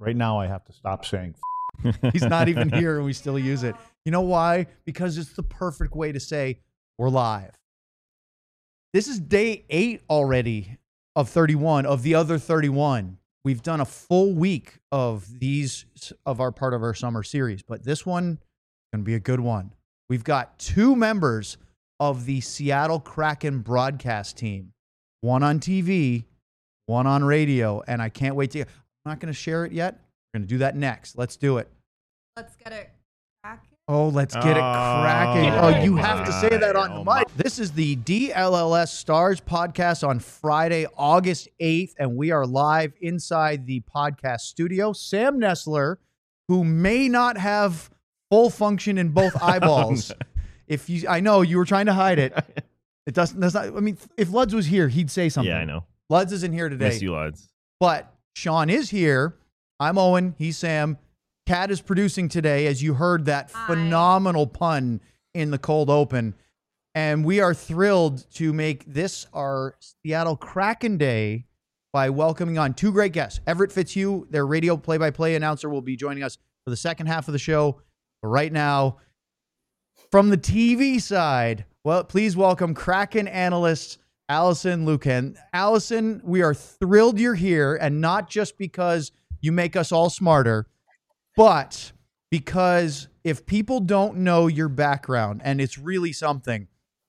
Right now, I have to stop saying he's not even here and we still use it. You know why? Because it's the perfect way to say we're live. This is day 8 already of 31 of the other 31. We've done a full week of these of our part of our summer series, but this one going to be a good one. We've got 2 members of the Seattle Kraken broadcast team, one on TV, one on radio, and I can't wait to. I'm not going to share it yet. We're going to do that next. Let's do it. Let's get it cracking. Oh, let's get it cracking. Oh, You have to say that on the mic. This is the DLLS Stars podcast on Friday, August 8th, and we are live inside the podcast studio. Sam Nestler, who may not have full function in both eyeballs. I know you were trying to hide it. It doesn't. That's not. I mean, if Luds was here, he'd say something. Yeah, I know. Luds isn't here today. Miss you, Luds. But Sean is here. I'm Owen. He's Sam. Kat is producing today, as you heard that phenomenal pun in the cold open. And we are thrilled to make this our Seattle Kraken Day by welcoming on 2 great guests. Everett Fitzhugh, their radio play-by-play announcer, will be joining us for the second half of the show. But right now, from the TV side, well, please welcome Kraken analyst Alison Lukan. Alison, we are thrilled you're here, and not just because you make us all smarter, but because if people don't know your background, and it's really something,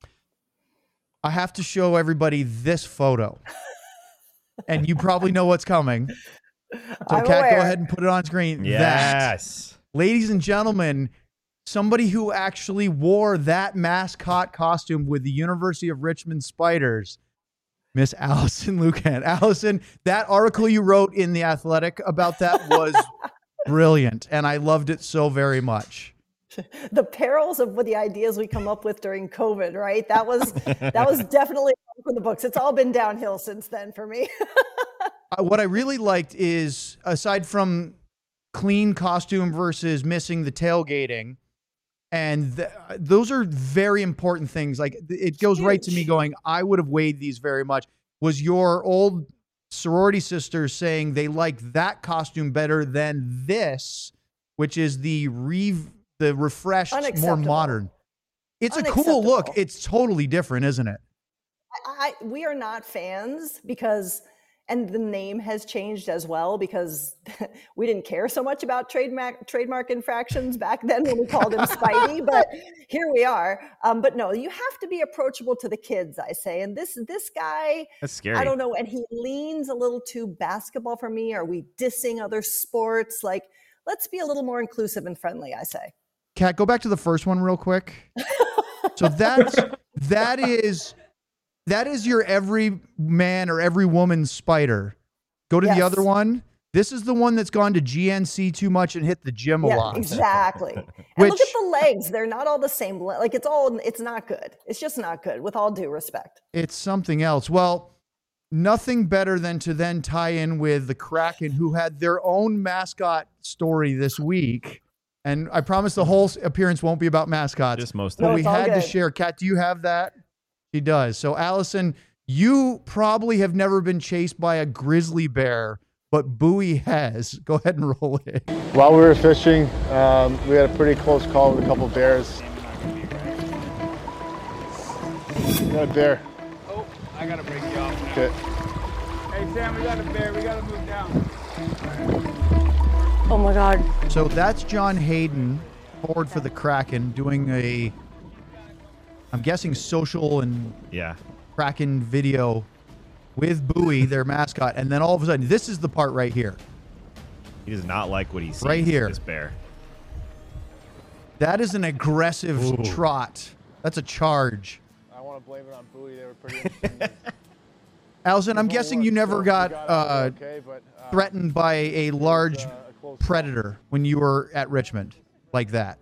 I have to show everybody this photo. And you probably know what's coming. So, Kat, go ahead and put it on screen. Yes. That, ladies and gentlemen, somebody who actually wore that mascot costume with the University of Richmond Spiders, Miss Alison Lukan. Alison, that article you wrote in The Athletic about that was brilliant, and I loved it so very much. The perils of the ideas we come up with during COVID, right? That was definitely for the books. It's all been downhill since then for me. What I really liked is, aside from clean costume versus missing the tailgating, and those are very important things. Like, it goes right to me going, I would have weighed these very much. Was your old sorority sisters saying they like that costume better than this, which is the refreshed, more modern. It's a cool look. It's totally different, isn't it? We are not fans because, and the name has changed as well because we didn't care so much about trademark infractions back then when we called him Spidey, but here we are. But no, you have to be approachable to the kids, I say. And this guy, that's scary. I don't know. And he leans a little too basketball for me. Are we dissing other sports? Like, let's be a little more inclusive and friendly, I say. Kat, go back to the first one real quick. So that is your every man or every woman's spider. Go to the other one. This is the one that's gone to GNC too much and hit the gym a lot. Exactly. And look at the legs. They're not all the same. Like, it's not good. It's just not good, with all due respect. It's something else. Well, nothing better than to then tie in with the Kraken, who had their own mascot story this week. And I promise the whole appearance won't be about mascots. Just most of it. But it. we had to share. Kat, do you have that? She does. So, Alison, you probably have never been chased by a grizzly bear, but Bowie has. Go ahead and roll it. While we were fishing, we had a pretty close call with a couple bears. Got a bear. Oh, I gotta break you off now. Okay. Hey, Sam, we got a bear. We gotta move down. Oh my God. So that's John Hayden, forward for the Kraken, doing I'm guessing social and Kraken video with Bowie, their mascot. And then all of a sudden, this is the part right here. He does not like what he sees. Right here. This bear. That is an aggressive trot. That's a charge. I want to blame it on Bowie. They were pretty interesting. Alison, I'm guessing you never got threatened by a large predator when you were at Richmond like that.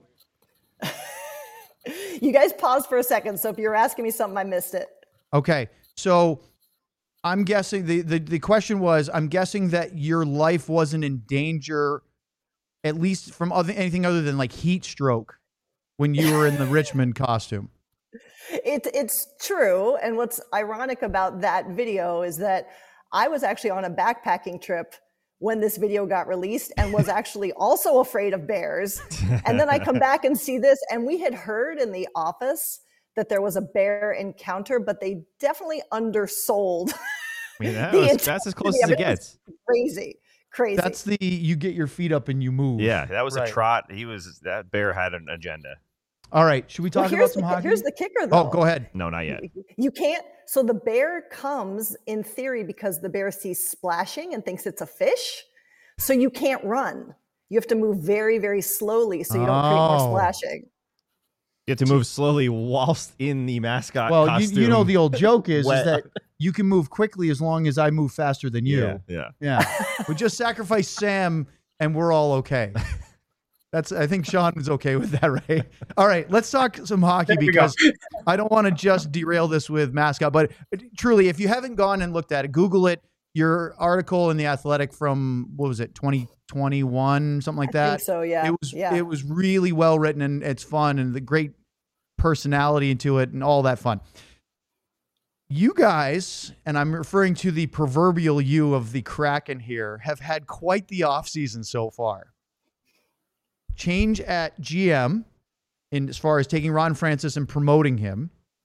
You guys paused for a second, so if you're asking me something, I missed it. Okay, so I'm guessing the question was, I'm guessing that your life wasn't in danger, at least from anything other than like heat stroke, when you were in the Richmond costume. It's true, and what's ironic about that video is that I was actually on a backpacking trip when this video got released and was actually also afraid of bears. And then I come back and see this, and we had heard in the office that there was a bear encounter, but they definitely undersold. I mean, that's as close as it gets. Crazy. That's you get your feet up and you move. Yeah, that was a trot. That bear had an agenda. All right, should we talk about some hockey? Here's the kicker, though. Oh, go ahead. No, not yet. You can't. So the bear comes, in theory, because the bear sees splashing and thinks it's a fish. So you can't run. You have to move very, very slowly so you don't create more splashing. You have to move slowly whilst in the mascot costume. You know the old joke is that you can move quickly as long as I move faster than you. Yeah. We just sacrifice Sam and we're all okay. I think Sean is okay with that, right? All right, let's talk some hockey because I don't want to just derail this with mascot. But truly, if you haven't gone and looked at it, Google it. Your article in The Athletic from, 2021, something like that? I think so, yeah. It was really well written, and it's fun, and the great personality into it and all that fun. You guys, and I'm referring to the proverbial you of the Kraken here, have had quite the offseason so far. Change at GM as far as taking Ron Francis and promoting him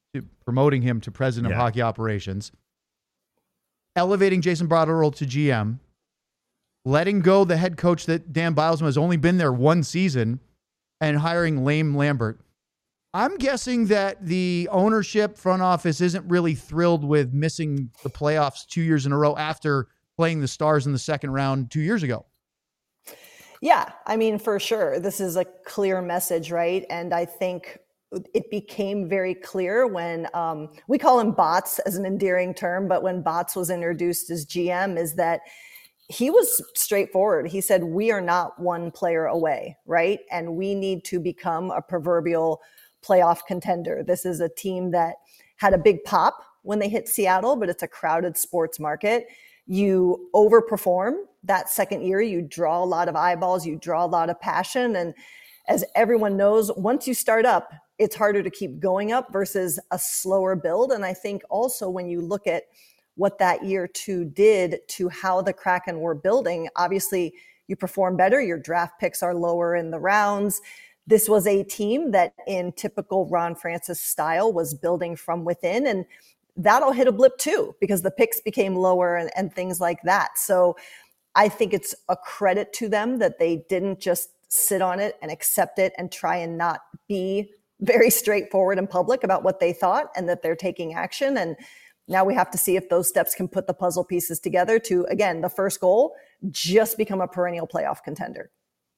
to president of hockey operations, elevating Jason Botterill to GM, letting go the head coach that Dan Bylsma has only been there one season, and hiring Lane Lambert. I'm guessing that the ownership front office isn't really thrilled with missing the playoffs 2 years in a row after playing the Stars in the second round 2 years ago. Yeah, I mean, for sure. This is a clear message, right? And I think it became very clear when we call him Bots as an endearing term, but when Bots was introduced as GM, is that he was straightforward. He said, we are not one player away, right? And we need to become a proverbial playoff contender. This is a team that had a big pop when they hit Seattle, but it's a crowded sports market. You overperform that second year, you draw a lot of eyeballs, you draw a lot of passion. And as everyone knows, once you start up, it's harder to keep going up versus a slower build. And I think also when you look at what that year two did to how the Kraken were building, obviously you perform better, your draft picks are lower in the rounds. This was a team that in typical Ron Francis style was building from within, and that'll hit a blip too because the picks became lower and things like that. So I think it's a credit to them that they didn't just sit on it and accept it and try and not be very straightforward in public about what they thought, and that they're taking action. And now we have to see if those steps can put the puzzle pieces together to, again, the first goal, just become a perennial playoff contender.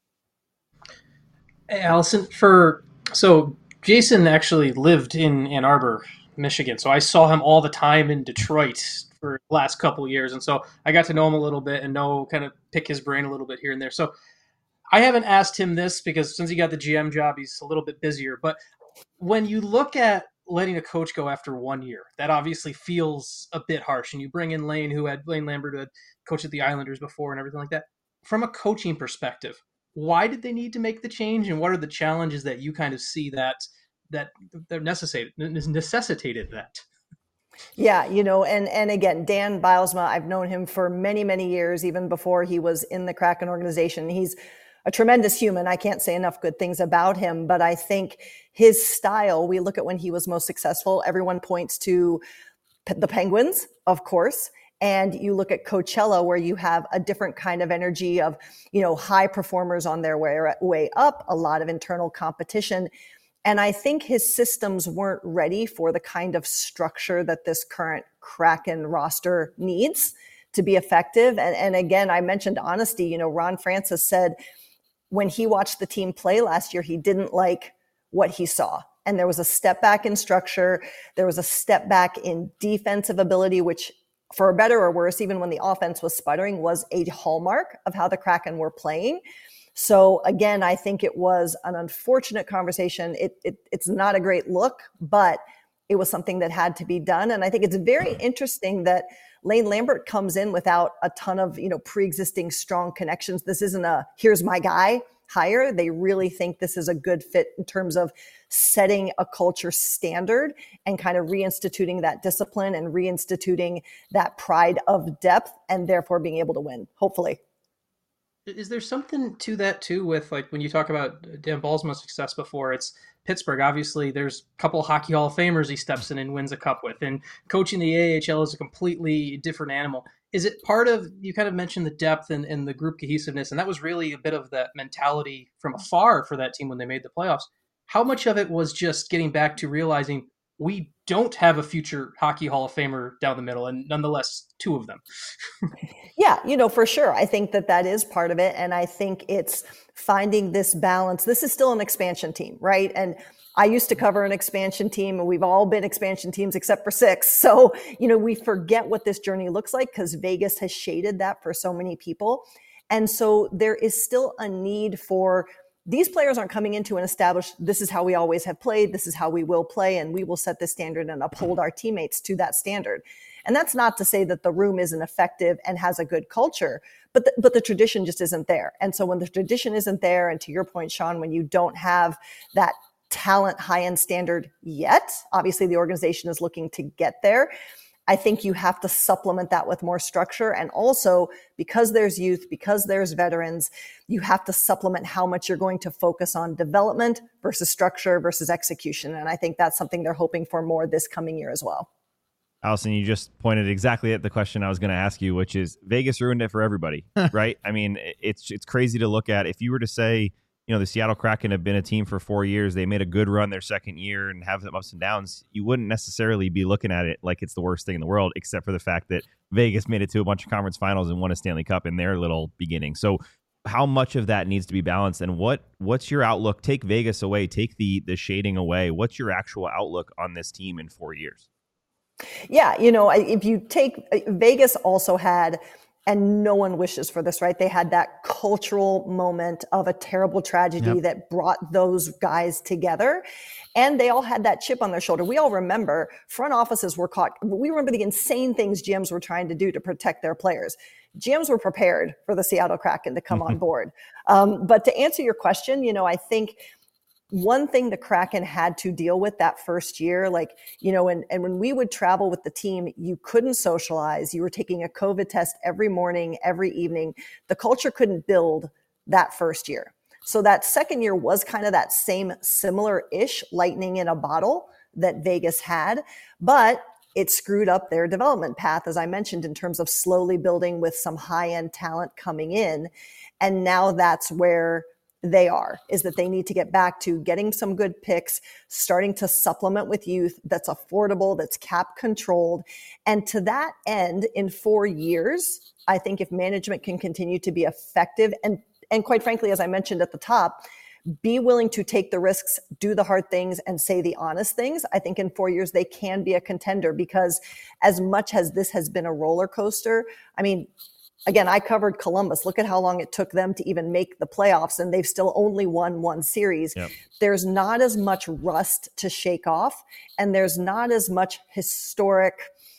Hey, Allison, so Jason actually lived in Ann Arbor, Michigan. So I saw him all the time in Detroit for the last couple of years. And so I got to know him a little bit and kind of pick his brain a little bit here and there. So I haven't asked him this because since he got the GM job, he's a little bit busier. But when you look at letting a coach go after 1 year, that obviously feels a bit harsh. And you bring in Lane Lambert, who had coached at the Islanders before and everything like that. From a coaching perspective, why did they need to make the change? And what are the challenges that you kind of see that necessitated that? Yeah, and again, Dan Bylsma, I've known him for many, many years, even before he was in the Kraken organization. He's a tremendous human. I can't say enough good things about him, but I think his style, we look at when he was most successful, everyone points to the Penguins, of course. And you look at Coachella, where you have a different kind of energy of, high performers on their way up, a lot of internal competition. And I think his systems weren't ready for the kind of structure that this current Kraken roster needs to be effective. And again, I mentioned honesty. Ron Francis said when he watched the team play last year, he didn't like what he saw. And there was a step back in structure. There was a step back in defensive ability, which, for better or worse, even when the offense was sputtering, was a hallmark of how the Kraken were playing. So again, I think it was an unfortunate conversation. It's not a great look, but it was something that had to be done. And I think it's very interesting that Lane Lambert comes in without a ton of, pre-existing strong connections. This isn't a here's my guy hire. They really think this is a good fit in terms of setting a culture standard and kind of reinstituting that discipline and reinstituting that pride of depth, and therefore being able to win, hopefully. Is there something to that too with like when you talk about Dan Balsmo's success before? It's Pittsburgh. Obviously, there's a couple of Hockey Hall of Famers he steps in and wins a cup with, and coaching the AHL is a completely different animal. Is it part of, you kind of mentioned the depth and the group cohesiveness, and that was really a bit of that mentality from afar for that team when they made the playoffs. How much of it was just getting back to realizing we don't have a future Hockey Hall of Famer down the middle, and nonetheless, two of them? Yeah, for sure. I think that is part of it. And I think it's finding this balance. This is still an expansion team, right? And I used to cover an expansion team, and we've all been expansion teams except for 6. So, we forget what this journey looks like because Vegas has shaded that for so many people. And so there is still a need for, these players aren't coming into an established, this is how we always have played, this is how we will play, and we will set this standard and uphold our teammates to that standard. And that's not to say that the room isn't effective and has a good culture, but the tradition just isn't there. And so when the tradition isn't there, and to your point, Sean, when you don't have that talent high-end standard yet, obviously the organization is looking to get there. I think you have to supplement that with more structure. And also, because there's youth, because there's veterans, you have to supplement how much you're going to focus on development versus structure versus execution. And I think that's something they're hoping for more this coming year as well. Allison, you just pointed exactly at the question I was going to ask you, which is Vegas ruined it for everybody, right? I mean, it's crazy to look at. If you were to say, the Seattle Kraken have been a team for 4 years, they made a good run their second year and have some ups and downs, you wouldn't necessarily be looking at it like it's the worst thing in the world, except for the fact that Vegas made it to a bunch of conference finals and won a Stanley Cup in their little beginning. So how much of that needs to be balanced, and what's your outlook? Take Vegas away, take the shading away. What's your actual outlook on this team in 4 years? Yeah, if you take Vegas also had, and no one wishes for this, right? They had that cultural moment of a terrible tragedy that brought those guys together. And they all had that chip on their shoulder. We all remember front offices were caught. We remember the insane things GMs were trying to do to protect their players. GMs were prepared for the Seattle Kraken to come on board. But to answer your question, I think one thing the Kraken had to deal with that first year, and when we would travel with the team, you couldn't socialize. You were taking a COVID test every morning, every evening. The culture couldn't build that first year. So that second year was kind of that same similar-ish lightning in a bottle that Vegas had, but it screwed up their development path, as I mentioned, in terms of slowly building with some high-end talent coming in. And now that's where they are, is that they need to get back to getting some good picks, starting to supplement with youth that's affordable, that's cap controlled. And to that end, in 4 years, I think if management can continue to be effective and quite frankly, as I mentioned at the top, be willing to take the risks, do the hard things, and say the honest things, I think in 4 years, they can be a contender. Because as much as this has been a roller coaster, I mean, again, I covered Columbus. Look at how long it took them to even make the playoffs, and they've still only won one series. Yep. There's not as much rust to shake off, and there's not as much historic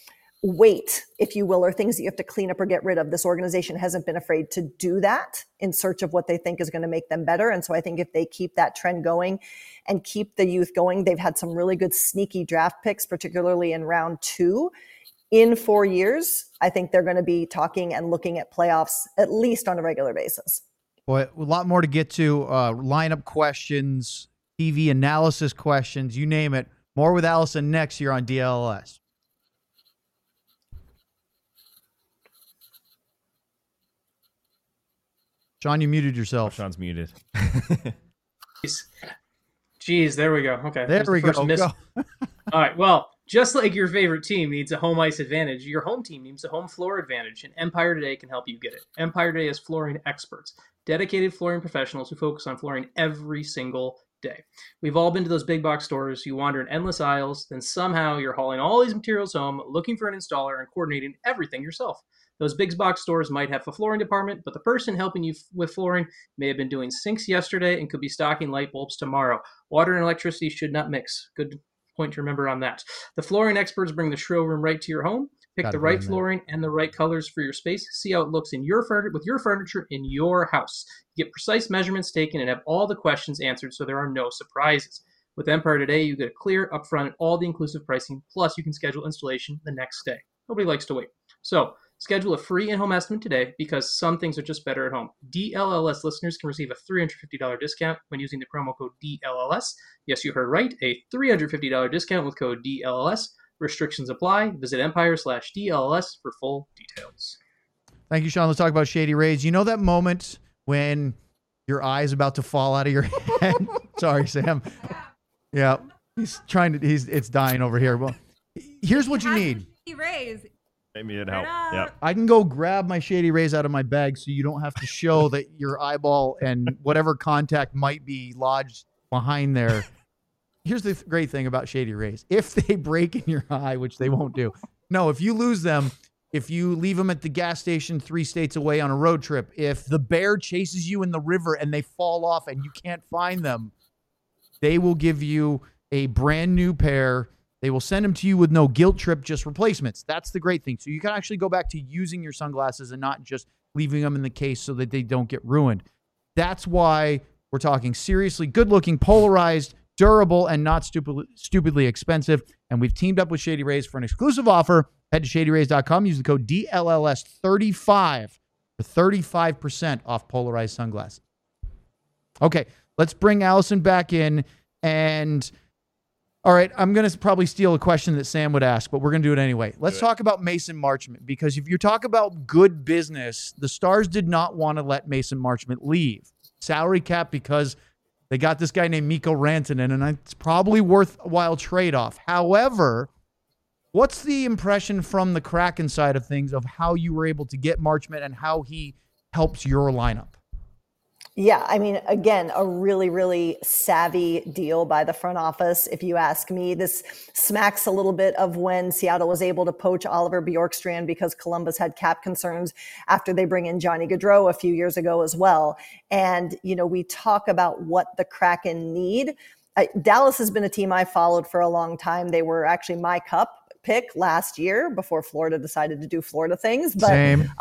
weight, if you will, or things that you have to clean up or get rid of. This organization hasn't been afraid to do that in search of what they think is going to make them better. And so I think if they keep that trend going and keep the youth going, they've had some really good sneaky draft picks, particularly in round 2. In 4 years, I think they're going to be talking and looking at playoffs at least on a regular basis. Boy, a lot more to get to. Lineup questions, TV analysis questions, you name it. More with Allison next here on DLS. Sean, you muted yourself. Sean's muted. Jeez, there we go. Okay. There we go. All right, well, just like your favorite team needs a home ice advantage, your home team needs a home floor advantage, and Empire Today can help you get it. Empire Today is flooring experts, dedicated flooring professionals who focus on flooring every single day. We've all been to those big box stores. You wander in endless aisles, then somehow you're hauling all these materials home, looking for an installer, and coordinating everything yourself. Those big box stores might have a flooring department, but the person helping you with flooring may have been doing sinks yesterday and could be stocking light bulbs tomorrow. Water and electricity should not mix. Good point to remember on that. The flooring experts bring the showroom right to your home. Pick the right flooring and the right colors for your space. See how it looks in with your furniture in your house. You get precise measurements taken and have all the questions answered, so there are no surprises. With Empire Today, you get a clear, upfront, and all the inclusive pricing. Plus, you can schedule installation the next day. Nobody likes to wait. So Schedule a free in-home estimate today because some things are just better at home. DLLS listeners can receive a $350 discount when using the promo code DLLS. Yes, you heard right, a $350 discount with code DLLS. Restrictions apply. Visit Empire/DLLS for full details. Thank you, Sean. Let's talk about Shady Rays. You know that moment when your eye is about to fall out of your head? Sorry, Sam. Yeah, it's dying over here. Well, here's what you need. Rays. Maybe it'd help. Yeah. I can go grab my Shady Rays out of my bag so you don't have to show that your eyeball and whatever contact might be lodged behind there. Here's the great thing about Shady Rays. If they break in your eye, which they won't do. No, if you lose them, if you leave them at the gas station 3 states away on a road trip, if the bear chases you in the river and they fall off and you can't find them, they will give you a brand new pair. They will send them to you with no guilt trip, just replacements. That's the great thing. So you can actually go back to using your sunglasses and not just leaving them in the case so that they don't get ruined. That's why we're talking seriously good-looking, polarized, durable, and not stupidly expensive. And we've teamed up with Shady Rays for an exclusive offer. Head to shadyrays.com. Use the code DLLS35 for 35% off polarized sunglasses. Okay, let's bring Allison back in. And, all right, I'm going to probably steal a question that Sam would ask, but we're going to do it anyway. Let's talk about Mason Marchment, because if you talk about good business, the Stars did not want to let Mason Marchment leave. Salary cap, because they got this guy named Mikko Rantanen, and it's probably worthwhile trade-off. However, what's the impression from the Kraken side of things of how you were able to get Marchment and how he helps your lineup? Yeah, I mean, again, a really, really savvy deal by the front office. If you ask me, this smacks a little bit of when Seattle was able to poach Oliver Bjorkstrand because Columbus had cap concerns after they bring in Johnny Gaudreau a few years ago as well. And, you know, we talk about what the Kraken need. Dallas has been a team I followed for a long time. They were actually my cup pick last year before Florida decided to do Florida things. But, Same.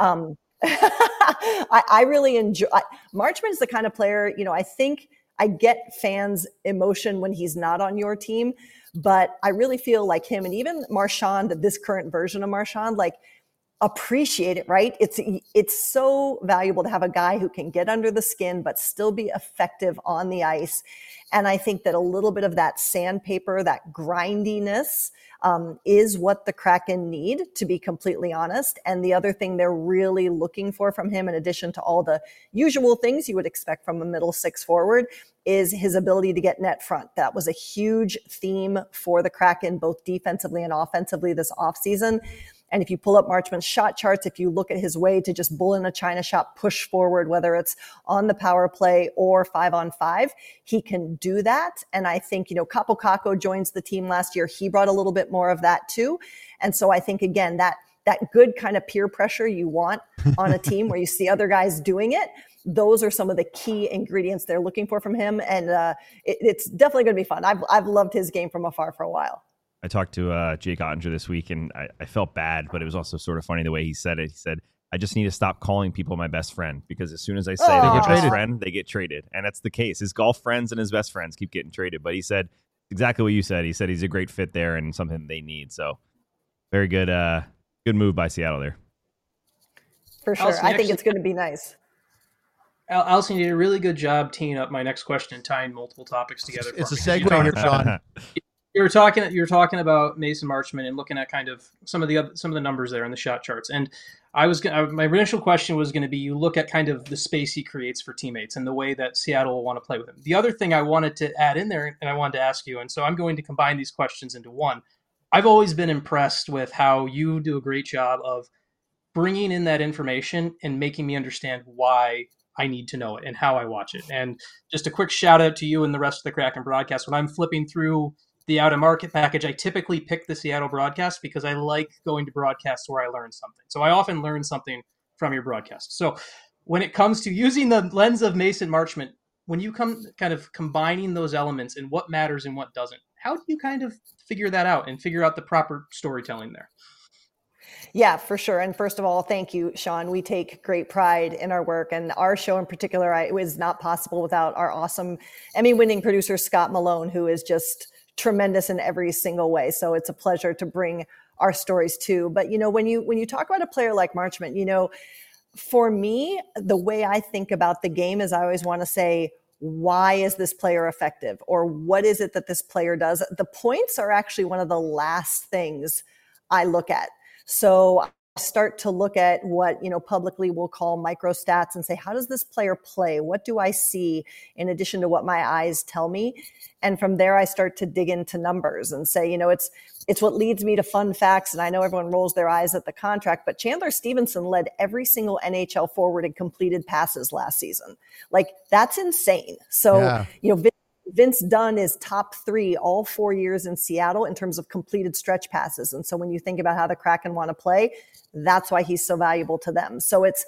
I really enjoy Marchment is the kind of player, you know, I think I get fans' emotion when he's not on your team, but I really feel like him and even Marchand, this current version of Marchand, like appreciate it, right? It's so valuable to have a guy who can get under the skin, but still be effective on the ice. And I think that a little bit of that sandpaper, that grindiness, is what the Kraken need, to be completely honest. And the other thing they're really looking for from him, in addition to all the usual things you would expect from a middle six forward, is his ability to get net front. That was a huge theme for the Kraken, both defensively and offensively this offseason. And if you pull up Marchment's shot charts, if you look at his way to just bull in a China shot, push forward, whether it's on the power play or 5-on-5, he can do that. And I think, you know, Kaapo Kakko joins the team last year. He brought a little bit more of that too. And so I think, again, that good kind of peer pressure you want on a team where you see other guys doing it, those are some of the key ingredients they're looking for from him. And it's definitely going to be fun. I've loved his game from afar for a while. I talked to Jake Ottinger this week, and I felt bad, but it was also sort of funny the way he said it. He said, I just need to stop calling people my best friend, because as soon as I say they're my best friend, they get traded. And that's the case. His golf friends and his best friends keep getting traded. But he said exactly what you said. He said he's a great fit there and something they need. So very good good move by Seattle there. For sure. Allison, I think it's going to be nice. Allison, you did a really good job teeing up my next question and tying multiple topics together. It's a segue here, Sean. You're talking about Mason Marchment and looking at kind of some of the numbers there in the shot charts. And my initial question was going to be, you look at kind of the space he creates for teammates and the way that Seattle will want to play with him. The other thing I wanted to add in there, and I wanted to ask you, and so I'm going to combine these questions into one. I've always been impressed with how you do a great job of bringing in that information and making me understand why I need to know it and how I watch it. And just a quick shout out to you and the rest of the Kraken broadcast. When I'm flipping through the out-of-market package, I typically pick the Seattle broadcast because I like going to broadcasts where I learn something. So I often learn something from your broadcast. So when it comes to using the lens of Mason Marchment, when you come kind of combining those elements and what matters and what doesn't, how do you kind of figure that out and figure out the proper storytelling there? Yeah, for sure. And first of all, thank you, Sean. We take great pride in our work, and our show in particular, it was not possible without our awesome Emmy-winning producer, Scott Malone, who is just tremendous in every single way. So it's a pleasure to bring our stories too. But, when you talk about a player like Marchment, for me, the way I think about the game is I always want to say, why is this player effective? Or what is it that this player does? The points are actually one of the last things I look at. So I start to look at what, publicly we'll call micro stats and say, how does this player play? What do I see in addition to what my eyes tell me? And from there, I start to dig into numbers and say, it's what leads me to fun facts. And I know everyone rolls their eyes at the contract, but Chandler Stevenson led every single NHL forward in completed passes last season. Like, that's insane. So, Vince Dunn is top 3 all 4 years in Seattle in terms of completed stretch passes. And so when you think about how the Kraken want to play, that's why he's so valuable to them. So it's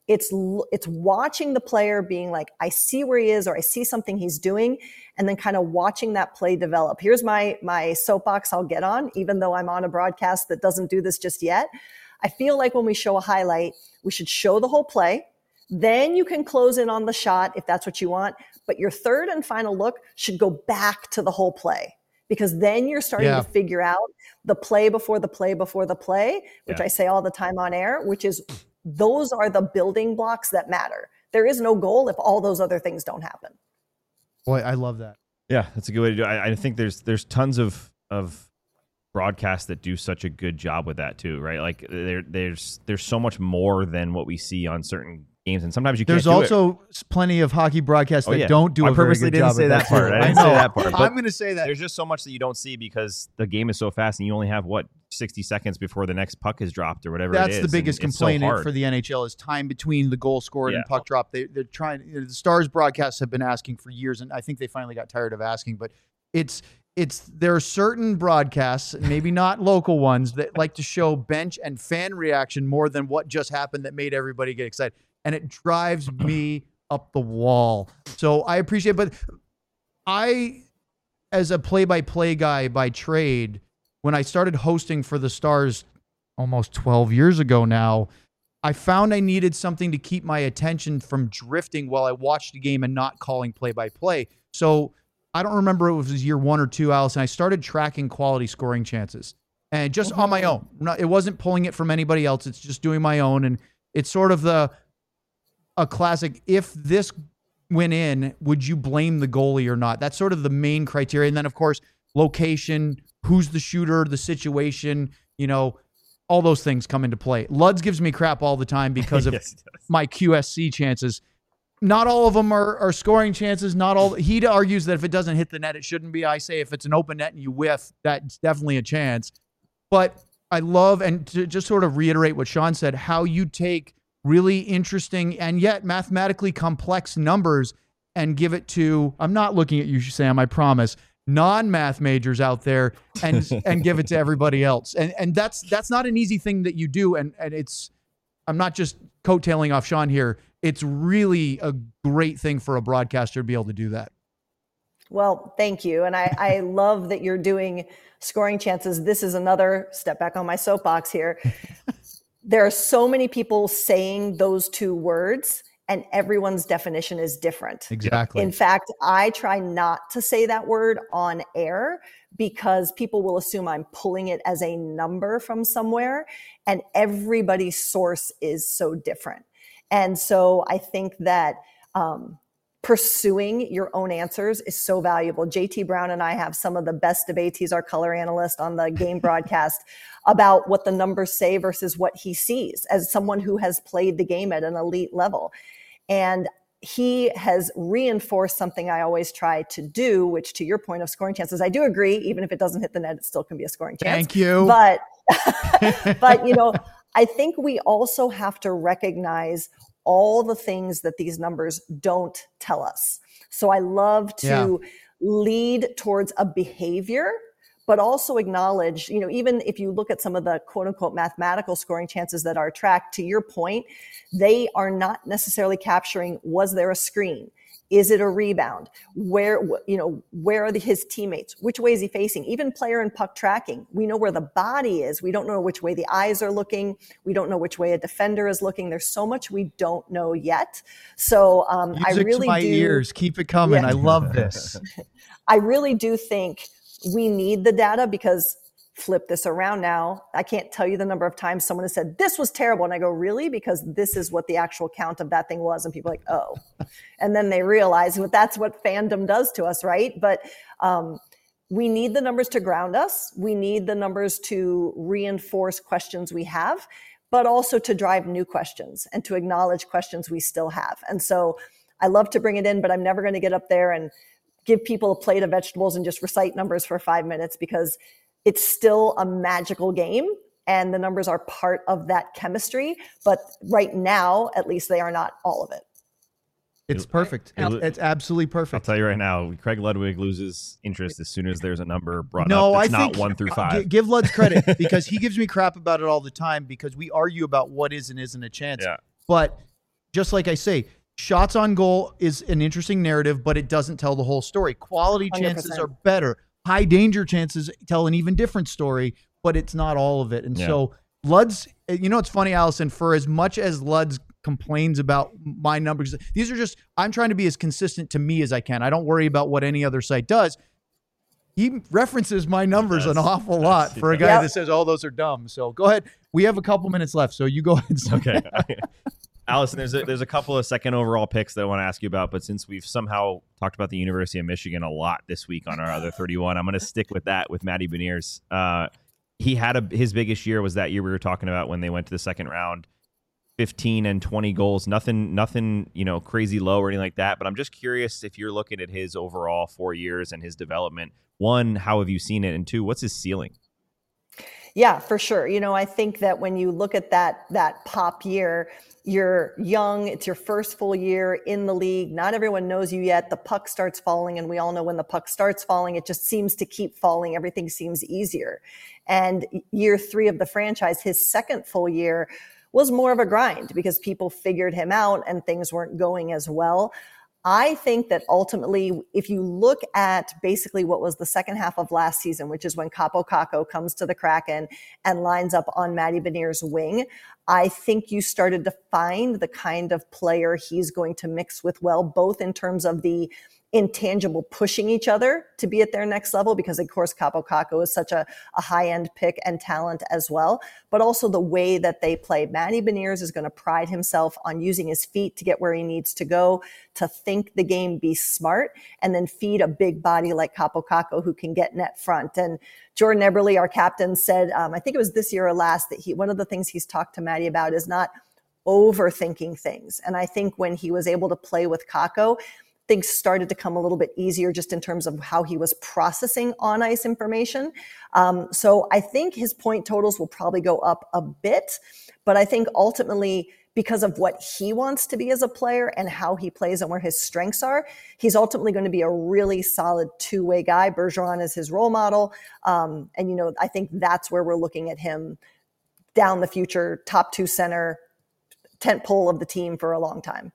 watching the player being like, I see where he is, or I see something he's doing, and then kind of watching that play develop. Here's my soapbox I'll get on, even though I'm on a broadcast that doesn't do this just yet. I feel like when we show a highlight, we should show the whole play. Then you can close in on the shot if that's what you want. But your third and final look should go back to the whole play, because then you're starting to figure out the play before the play before the play, which I say all the time on air, which is those are the building blocks that matter. There is no goal if all those other things don't happen. Boy, I love that. Yeah, that's a good way to do it. I think there's tons of broadcasts that do such a good job with that too, right? Like there's so much more than what we see on certain games, and sometimes you can't. There's also plenty of hockey broadcasts that don't do I a very purposely good didn't job say of that part. I didn't say that part. I'm going to say that there's just so much that you don't see because the game is so fast, and you only have 60 seconds before the next puck is dropped or whatever. That's it is. the biggest complaint for the NHL is time between the goal scored and puck drop. They're trying. The Stars broadcasts have been asking for years, and I think they finally got tired of asking. But there are certain broadcasts, maybe not local ones, that like to show bench and fan reaction more than what just happened that made everybody get excited. And it drives me up the wall. So I appreciate it. But I, as a play-by-play guy by trade, when I started hosting for the Stars almost 12 years ago now, I found I needed something to keep my attention from drifting while I watched the game and not calling play-by-play. So I don't remember if it was year 1 or 2, Allison. I started tracking quality scoring chances, and just on my own. It wasn't pulling it from anybody else. It's just doing my own. And it's sort of a classic, if this went in, would you blame the goalie or not? That's sort of the main criteria. And then, of course, location, who's the shooter, the situation, all those things come into play. Luds gives me crap all the time because of my QSC chances. Not all of them are scoring chances. He argues that if it doesn't hit the net, it shouldn't be. I say if it's an open net and you whiff, that's definitely a chance. But I love, and to just sort of reiterate what Sean said, how you take really interesting and yet mathematically complex numbers and give it to, I'm not looking at you, Sam, I promise, non-math majors out there and give it to everybody else. And that's not an easy thing that you do. And I'm not just coattailing off Sean here. It's really a great thing for a broadcaster to be able to do that. Well, thank you. And I love that you're doing scoring chances. This is another step back on my soapbox here. There are so many people saying those 2 words, and everyone's definition is different. Exactly. In fact, I try not to say that word on air because people will assume I'm pulling it as a number from somewhere, and everybody's source is so different. And so I think that pursuing your own answers is so valuable. JT Brown and I have some of the best debates. He's our color analyst on the game broadcast about what the numbers say versus what he sees as someone who has played the game at an elite level. And he has reinforced something I always try to do, which to your point of scoring chances, I do agree, even if it doesn't hit the net, it still can be a scoring chance. Thank you. But I think we also have to recognize all the things that these numbers don't tell us. So I love to lead towards a behavior, but also acknowledge, even if you look at some of the quote unquote mathematical scoring chances that are tracked, to your point, they are not necessarily capturing, was there a screen? Is it a rebound? Where are his teammates? Which way is he facing? Even player and puck tracking. We know where the body is. We don't know which way the eyes are looking. We don't know which way a defender is looking. There's so much we don't know yet. So I really to my ears. Keep it coming. Yeah. I love this. I really do think we need the data because flip this around now. I can't tell you the number of times someone has said, this was terrible. And I go, really? Because this is what the actual count of that thing was. And people are like, oh. And then they realize that that's what fandom does to us, right? But we need the numbers to ground us. We need the numbers to reinforce questions we have, but also to drive new questions and to acknowledge questions we still have. And so I love to bring it in, but I'm never going to get up there and give people a plate of vegetables and just recite numbers for 5 minutes, because it's still a magical game and the numbers are part of that chemistry. But right now, at least, they are not all of it. It's perfect. It's absolutely perfect. I'll tell you right now, Craig Ludwig loses interest as soon as there's a number brought No, up I that's think not 1 through 5. Give Luds credit because he gives me crap about it all the time because we argue about what is and isn't a chance. Yeah. But just like I say, shots on goal is an interesting narrative, but it doesn't tell the whole story. Quality chances 100%. are better. High danger chances tell an even different story, but it's not all of it. And so Luds, you know, it's funny, Allison, for as much as Luds complains about my numbers, these are just, I'm trying to be as consistent to me as I can. I don't worry about what any other site does. He references my numbers an awful lot for a guy that says, oh, those are dumb. So go ahead. We have a couple minutes left, so you go ahead. Okay. Allison, there's a couple of second overall picks that I want to ask you about, but since we've somehow talked about the University of Michigan a lot this week on our other 31, I'm going to stick with that with Matty Beniers. He had his biggest year was that year we were talking about when they went to the second round, 15 and 20 goals, nothing, you know, crazy low or anything like that. But I'm just curious if you're looking at his overall 4 years and his development. One, how have you seen it? And two, what's his ceiling? Yeah, for sure. You know, I think that when you look at that pop year, you're young, it's your first full year in the league. Not everyone knows you yet. The puck starts falling, and we all know when the puck starts falling, it just seems to keep falling. Everything seems easier. And year 3 of the franchise, his second full year, was more of a grind because people figured him out and things weren't going as well. I think that ultimately, if you look at basically what was the second half of last season, which is when Kaapo Kakko comes to the Kraken and lines up on Matty Beniers' wing, I think you started to find the kind of player he's going to mix with well, both in terms of the intangible pushing each other to be at their next level, because of course Kaapo Kakko is such a high-end pick and talent as well, but also the way that they play. Matty Beniers is going to pride himself on using his feet to get where he needs to go, to think the game, be smart, and then feed a big body like Kaapo Kakko who can get net front. And Jordan Eberle, our captain, said, I think it was this year or last, that one of the things he's talked to Matty about is not overthinking things. And I think when he was able to play with Kakko, things started to come a little bit easier just in terms of how he was processing on ice information. So I think his point totals will probably go up a bit, but I think ultimately because of what he wants to be as a player and how he plays and where his strengths are, he's ultimately going to be a really solid two-way guy. Bergeron is his role model. And, you know, I think that's where we're looking at him down the future, top 2 center, tent pole of the team for a long time.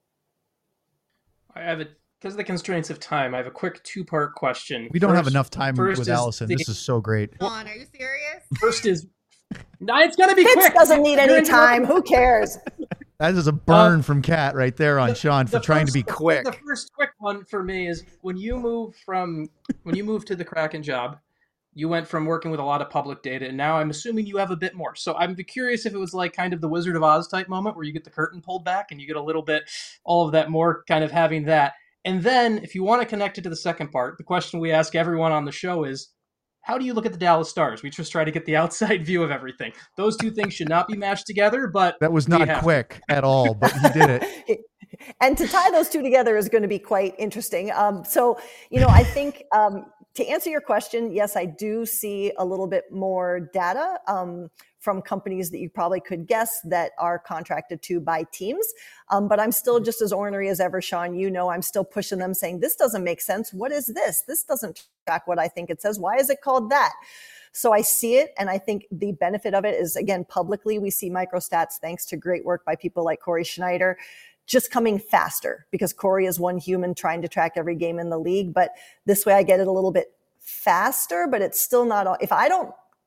I have because of the constraints of time, I have a quick 2-part question. We don't have enough time with Allison. This is so great. Come on, are you serious? First is, no, it's going to be quick. Fitz doesn't need any time. Who cares? That is a burn from Kat right there on Sean for trying to be quick. The first quick one for me is when you moved to the Kraken job, you went from working with a lot of public data, and now I'm assuming you have a bit more. So I'm curious if it was like kind of the Wizard of Oz type moment where you get the curtain pulled back and you get a little bit, all of that more kind of having that. And then if you want to connect it to the second part, the question we ask everyone on the show is, how do you look at the Dallas Stars? We just try to get the outside view of everything. Those two things should not be mashed together, but that was not quick at all, but he did it. And to tie those two together is going to be quite interesting. So, you know, I think to answer your question, yes, I do see a little bit more data from companies that you probably could guess that are contracted to by teams. But I'm still just as ornery as ever, Sean. You know, I'm still pushing them saying, this doesn't make sense. What is this? This doesn't track what I think it says. Why is it called that? So I see it. And I think the benefit of it is, again, publicly, we see microstats, thanks to great work by people like Corey Schneider, just coming faster because Corey is one human trying to track every game in the league. But this way I get it a little bit faster, but it's still not, if I don't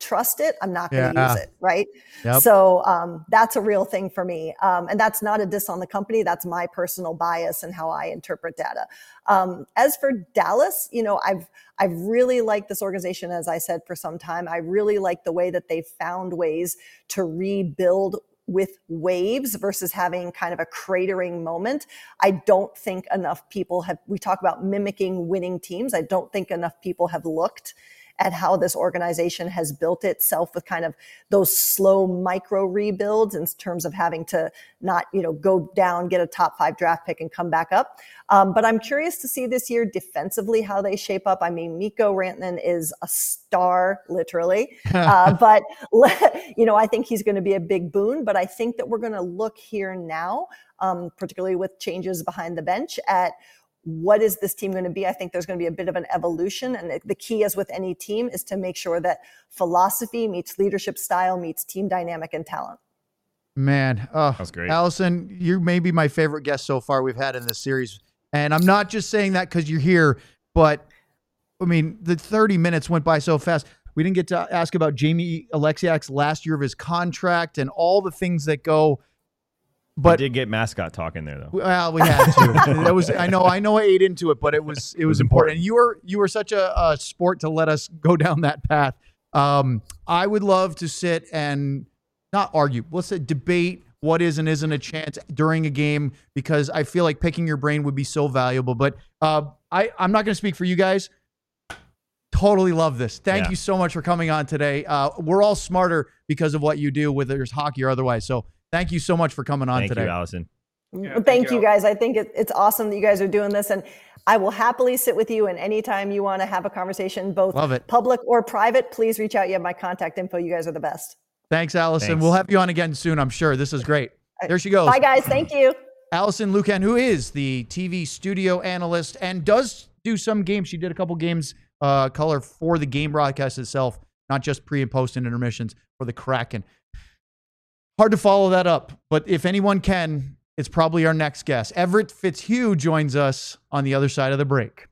trust it, I'm not going to Yeah. use it. Right. Yep. So that's a real thing for me. And that's not a diss on the company. That's my personal bias and how I interpret data. As for Dallas, I've really liked this organization, as I said, for some time. I really like the way that they've found ways to rebuild with waves versus having kind of a cratering moment. I don't think enough people we talk about mimicking winning teams. I don't think enough people have looked at how this organization has built itself with kind of those slow micro rebuilds in terms of having to not, go down, get a top 5 draft pick and come back up. But I'm curious to see this year defensively how they shape up. I mean, Mikko Rantanen is a star, literally. But, I think he's going to be a big boon. But I think that we're going to look here now, particularly with changes behind the bench, at what is this team going to be? I think there's going to be a bit of an evolution. And the key, as with any team, is to make sure that philosophy meets leadership style, meets team dynamic and talent. Man, That's great. Allison, you may be my favorite guest so far we've had in this series. And I'm not just saying that because you're here, but I mean, the 30 minutes went by so fast. We didn't get to ask about Jamie Alexiak's last year of his contract and all the things that go. But we did get mascot talk in there, though. Well, we had to. That was I know I ate into it, but it was important. And you were such a sport to let us go down that path. I would love to sit and not argue. Let's say debate what is and isn't a chance during a game, because I feel like picking your brain would be so valuable. But I'm not going to speak for you guys. Totally love this. Thank you so much for coming on today. We're all smarter because of what you do, whether it's hockey or otherwise. So thank you so much for coming on today. Thank you, Allison. Yeah, thank you guys. I think it's awesome that you guys are doing this, and I will happily sit with you. And anytime you want to have a conversation, both public or private, please reach out. You have my contact info. You guys are the best. Thanks, Allison. Thanks. We'll have you on again soon, I'm sure. This is great. There she goes. Bye, guys. Thank you. Allison Lukan, who is the TV studio analyst and does do some games. She did a couple games color for the game broadcast itself, not just pre and post and intermissions for the Kraken. Hard to follow that up, but if anyone can, it's probably our next guest. Everett Fitzhugh joins us on the other side of the break.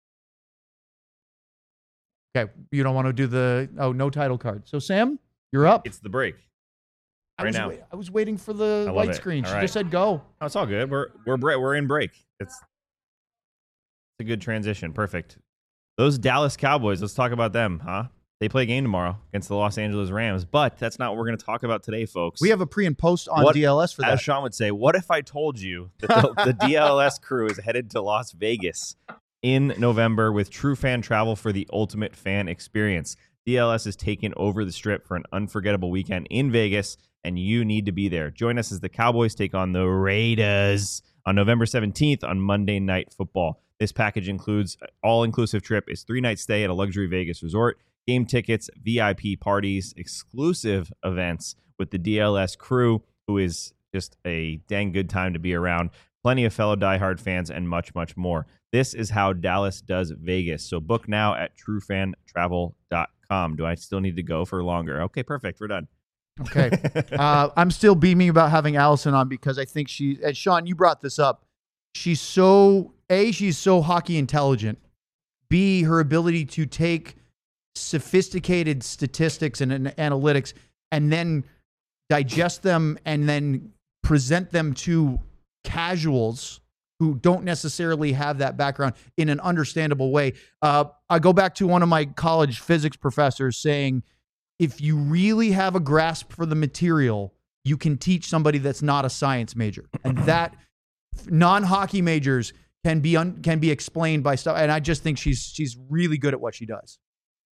Okay, you don't want to do no title card. So, Sam, you're up. It's the break. Now. I was waiting for the white screen. She just said go. Oh, it's all good. We're in break. It's a good transition. Perfect. Those Dallas Cowboys, let's talk about them, huh? They play a game tomorrow against the Los Angeles Rams, but that's not what we're going to talk about today, folks. We have a pre and post on DLS for that. As Sean would say, what if I told you that the DLS crew is headed to Las Vegas in November with true fan travel for the ultimate fan experience? DLS is taking over the Strip for an unforgettable weekend in Vegas, and you need to be there. Join us as the Cowboys take on the Raiders on November 17th on Monday Night Football. This package includes an all-inclusive trip. It's 3-night stay at a luxury Vegas resort, game tickets, VIP parties, exclusive events with the DLS crew, who is just a dang good time to be around, plenty of fellow diehard fans, and much, much more. This is how Dallas does Vegas. So book now at truefantravel.com. Do I still need to go for longer? Okay, perfect. We're done. Okay. I'm still beaming about having Allison on because I think and Sean, you brought this up. She's so hockey intelligent. B, her ability to take sophisticated statistics and analytics and then digest them and then present them to casuals who don't necessarily have that background in an understandable way. I go back to one of my college physics professors saying, if you really have a grasp for the material, you can teach somebody that's not a science major. And that non-hockey majors can be explained by stuff. And I just think she's really good at what she does.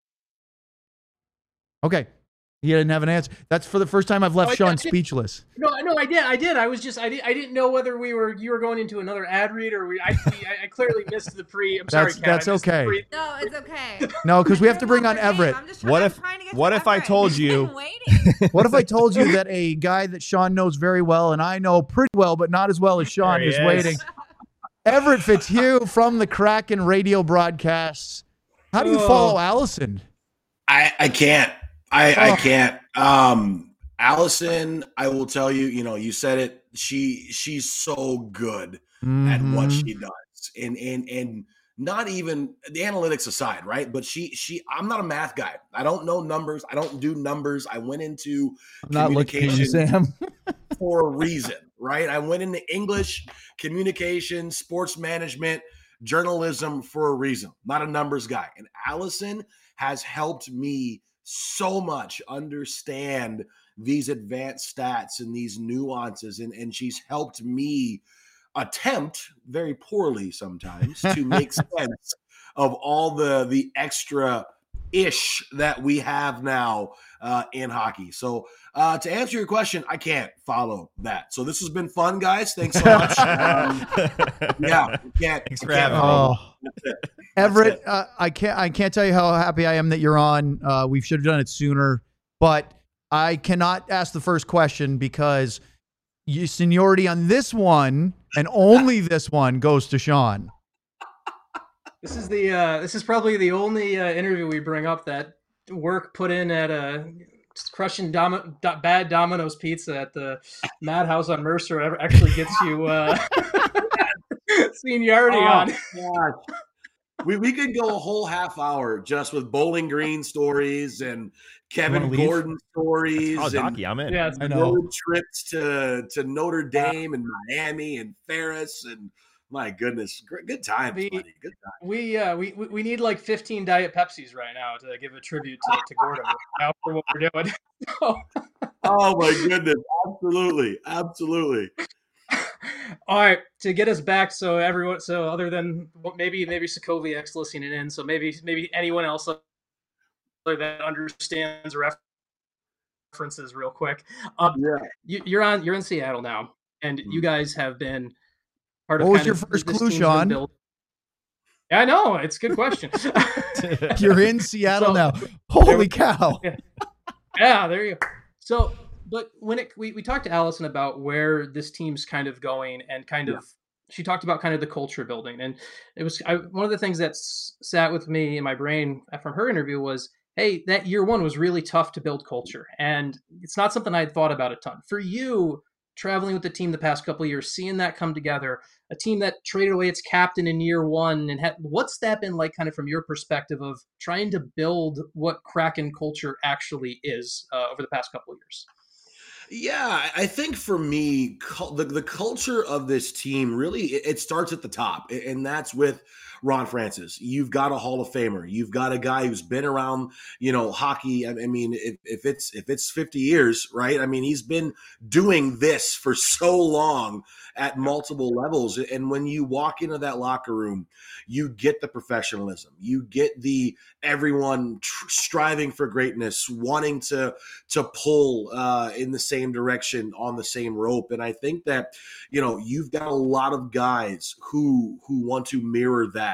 Okay. He didn't have an answer. That's for the first time I've left Sean speechless. No, I did. I didn't know whether you were going into another ad read or I clearly missed the pre. I'm sorry, Kat. That's okay. No, it's okay. No, because we have to bring on Everett. What if I told you? What if I told you that a guy that Sean knows very well and I know pretty well, but not as well as Sean is waiting? Everett Fitzhugh from the Kraken radio broadcasts. How do you follow Allison? I can't. I can't. Allison, I will tell you, you said it. She's so good at what she does. And not even the analytics aside, right? But I'm not a math guy. I don't know numbers. I don't do numbers. I went into I'm not looking at you, communication Sam. for a reason, right? I went into English, communication, sports management, journalism for a reason. Not a numbers guy. And Allison has helped me so much understand these advanced stats and these nuances. And she's helped me attempt, very poorly sometimes, to make sense of all the extra ish that we have now in hockey. So to answer your question, I can't follow that. So this has been fun, guys. Thanks so much. Thanks for having me. Oh. Everett, I can't tell you how happy I am that you're on. We should have done it sooner, but I cannot ask the first question because your seniority on this one and only this one goes to Sean. This is probably the only interview we bring up that work put in at crushing bad Domino's pizza at the Madhouse on Mercer ever actually gets you seniority on. God. We could go a whole half hour just with Bowling Green stories and Kevin Gordon stories. Oh, Docky, I'm in. Yes, I know. Road trips to Notre Dame and Miami and Ferris and my goodness, good times, buddy. Good times. We need like 15 Diet Pepsis right now to give a tribute to Gordon now for what we're doing. Oh my goodness, absolutely. All right, to get us back, so everyone, so other than maybe Sokoviak's listening in, so maybe anyone else that understands references real quick. You're in Seattle now, and you guys have been part of. What was your first clue, Sean? Yeah, I know, it's a good question. You're in Seattle now. Holy cow! Yeah, there you go. So. But when we talked to Allison about where this team's kind of going and kind of, she talked about kind of the culture building. And it was one of the things that sat with me in my brain from her interview was, hey, that year one was really tough to build culture. And it's not something I had thought about a ton. For you, traveling with the team the past couple of years, seeing that come together, a team that traded away its captain in year one, and what's that been like kind of from your perspective of trying to build what Kraken culture actually is over the past couple of years? Yeah, I think for me, the culture of this team really, it starts at the top, and that's with Ron Francis. You've got a Hall of Famer. You've got a guy who's been around, hockey. I mean, if it's 50 years, right? I mean, he's been doing this for so long at multiple levels. And when you walk into that locker room, you get the professionalism. You get the everyone striving for greatness, wanting to pull in the same direction on the same rope. And I think that, you've got a lot of guys who want to mirror that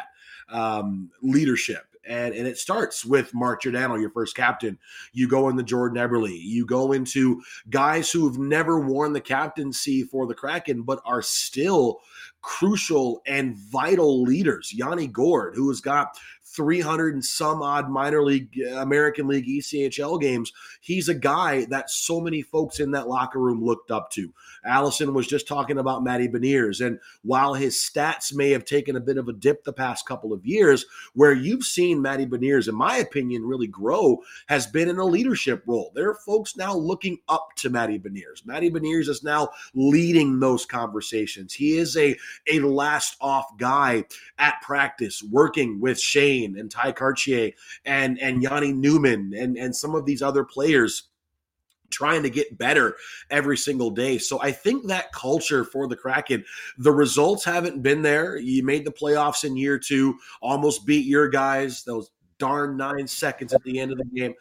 leadership. And it starts with Mark Giordano, your first captain. You go into Jordan Eberle. You go into guys who have never worn the captaincy for the Kraken, but are still crucial and vital leaders. Yanni Gourde, who has got 300 and some odd minor league, American League, ECHL games. He's a guy that so many folks in that locker room looked up to. Allison was just talking about Matty Beniers. And while his stats may have taken a bit of a dip the past couple of years, where you've seen Matty Beniers, in my opinion, really grow has been in a leadership role. There are folks now looking up to Matty Beniers. Matty Beniers is now leading those conversations. He is a last off guy at practice, working with Shane and Ty Cartier and Yanni Newman and some of these other players trying to get better every single day. So I think that culture for the Kraken, the results haven't been there. You made the playoffs in year two, almost beat your guys, those darn 9 seconds at the end of the game.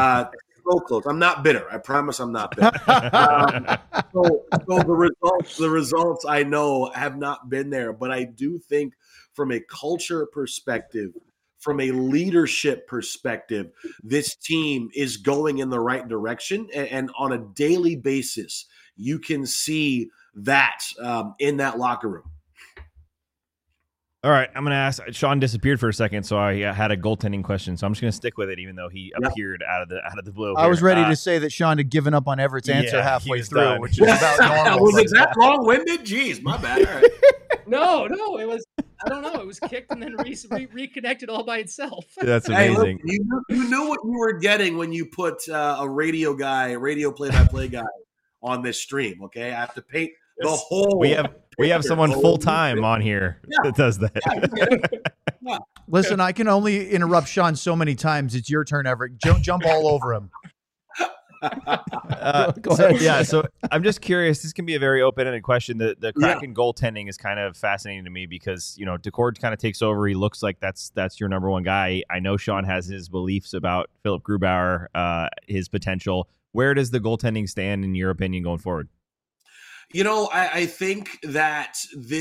So close. I'm not bitter. I promise I'm not bitter. So the results I know have not been there, but I do think from a culture perspective, from a leadership perspective, this team is going in the right direction. And on a daily basis, you can see that in that locker room. All right, I'm going to ask. Sean disappeared for a second, so I had a goaltending question. So I'm just going to stick with it, even though he appeared out of the blue. I was ready to say that Sean had given up on Everett's answer halfway through, which is about normal. Was it that long-winded? Jeez, my bad. All right. No, it was. I don't know. It was kicked and then reconnected all by itself. That's Hey, amazing. look, you knew what you were getting when you put a radio play-by-play guy on this stream. Okay, I have to paint the whole. We have someone picture. full time on here that does that. Listen, I can only interrupt Sean so many times. It's your turn, Everett. Jump all over him. Go ahead. Yeah, so I'm just curious. This can be a very open-ended question. The Kraken goaltending is kind of fascinating to me because, Decord kind of takes over. He looks like that's your number one guy. I know Sean has his beliefs about Philip Grubauer, his potential. Where does the goaltending stand, in your opinion, going forward? I think that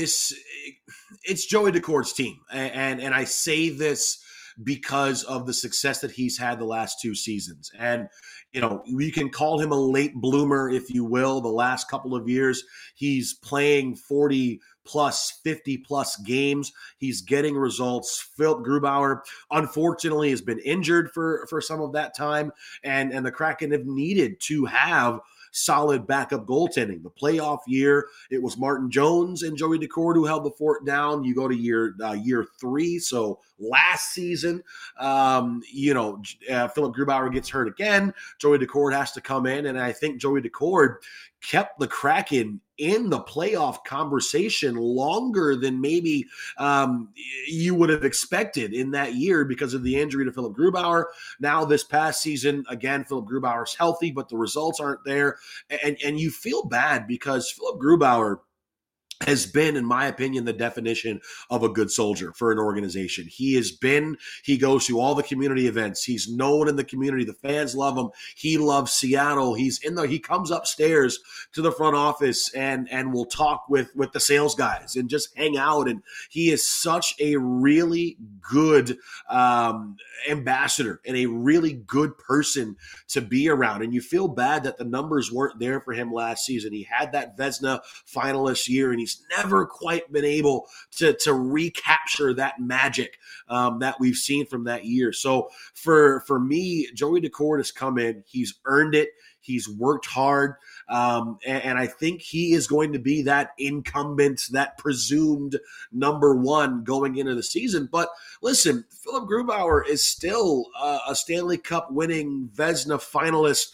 it's Joey Decord's team. And I say this because of the success that he's had the last 2 seasons. And, you can call him a late bloomer, if you will. The last couple of years, he's playing 40 plus, 50 plus games. He's getting results. Philip Grubauer, unfortunately, has been injured for some of that time. And the Kraken have needed to have solid backup goaltending. The playoff year, it was Martin Jones and Joey Decord who held the fort down. You go to year 3, so last season, Philip Grubauer gets hurt again. Joey Decord has to come in, and I think Joey Decord kept the Kraken in the playoff conversation longer than maybe you would have expected in that year because of the injury to Philip Grubauer. Now this past season, again, Philip Grubauer's healthy, but the results aren't there. And you feel bad because Philip Grubauer has been, in my opinion, the definition of a good soldier for an organization. He goes to all the community events. He's known in the community. The fans love him. He loves Seattle. He comes upstairs to the front office and will talk with the sales guys and just hang out. And he is such a really good ambassador and a really good person to be around. And you feel bad that the numbers weren't there for him last season. He had that Vezina finalist year, and he's never quite been able to recapture that magic that we've seen from that year. So for me, Joey Decord has come in. He's earned it. He's worked hard. And I think he is going to be that incumbent, that presumed number one going into the season. But listen, Philip Grubauer is still a Stanley Cup winning Vezina finalist,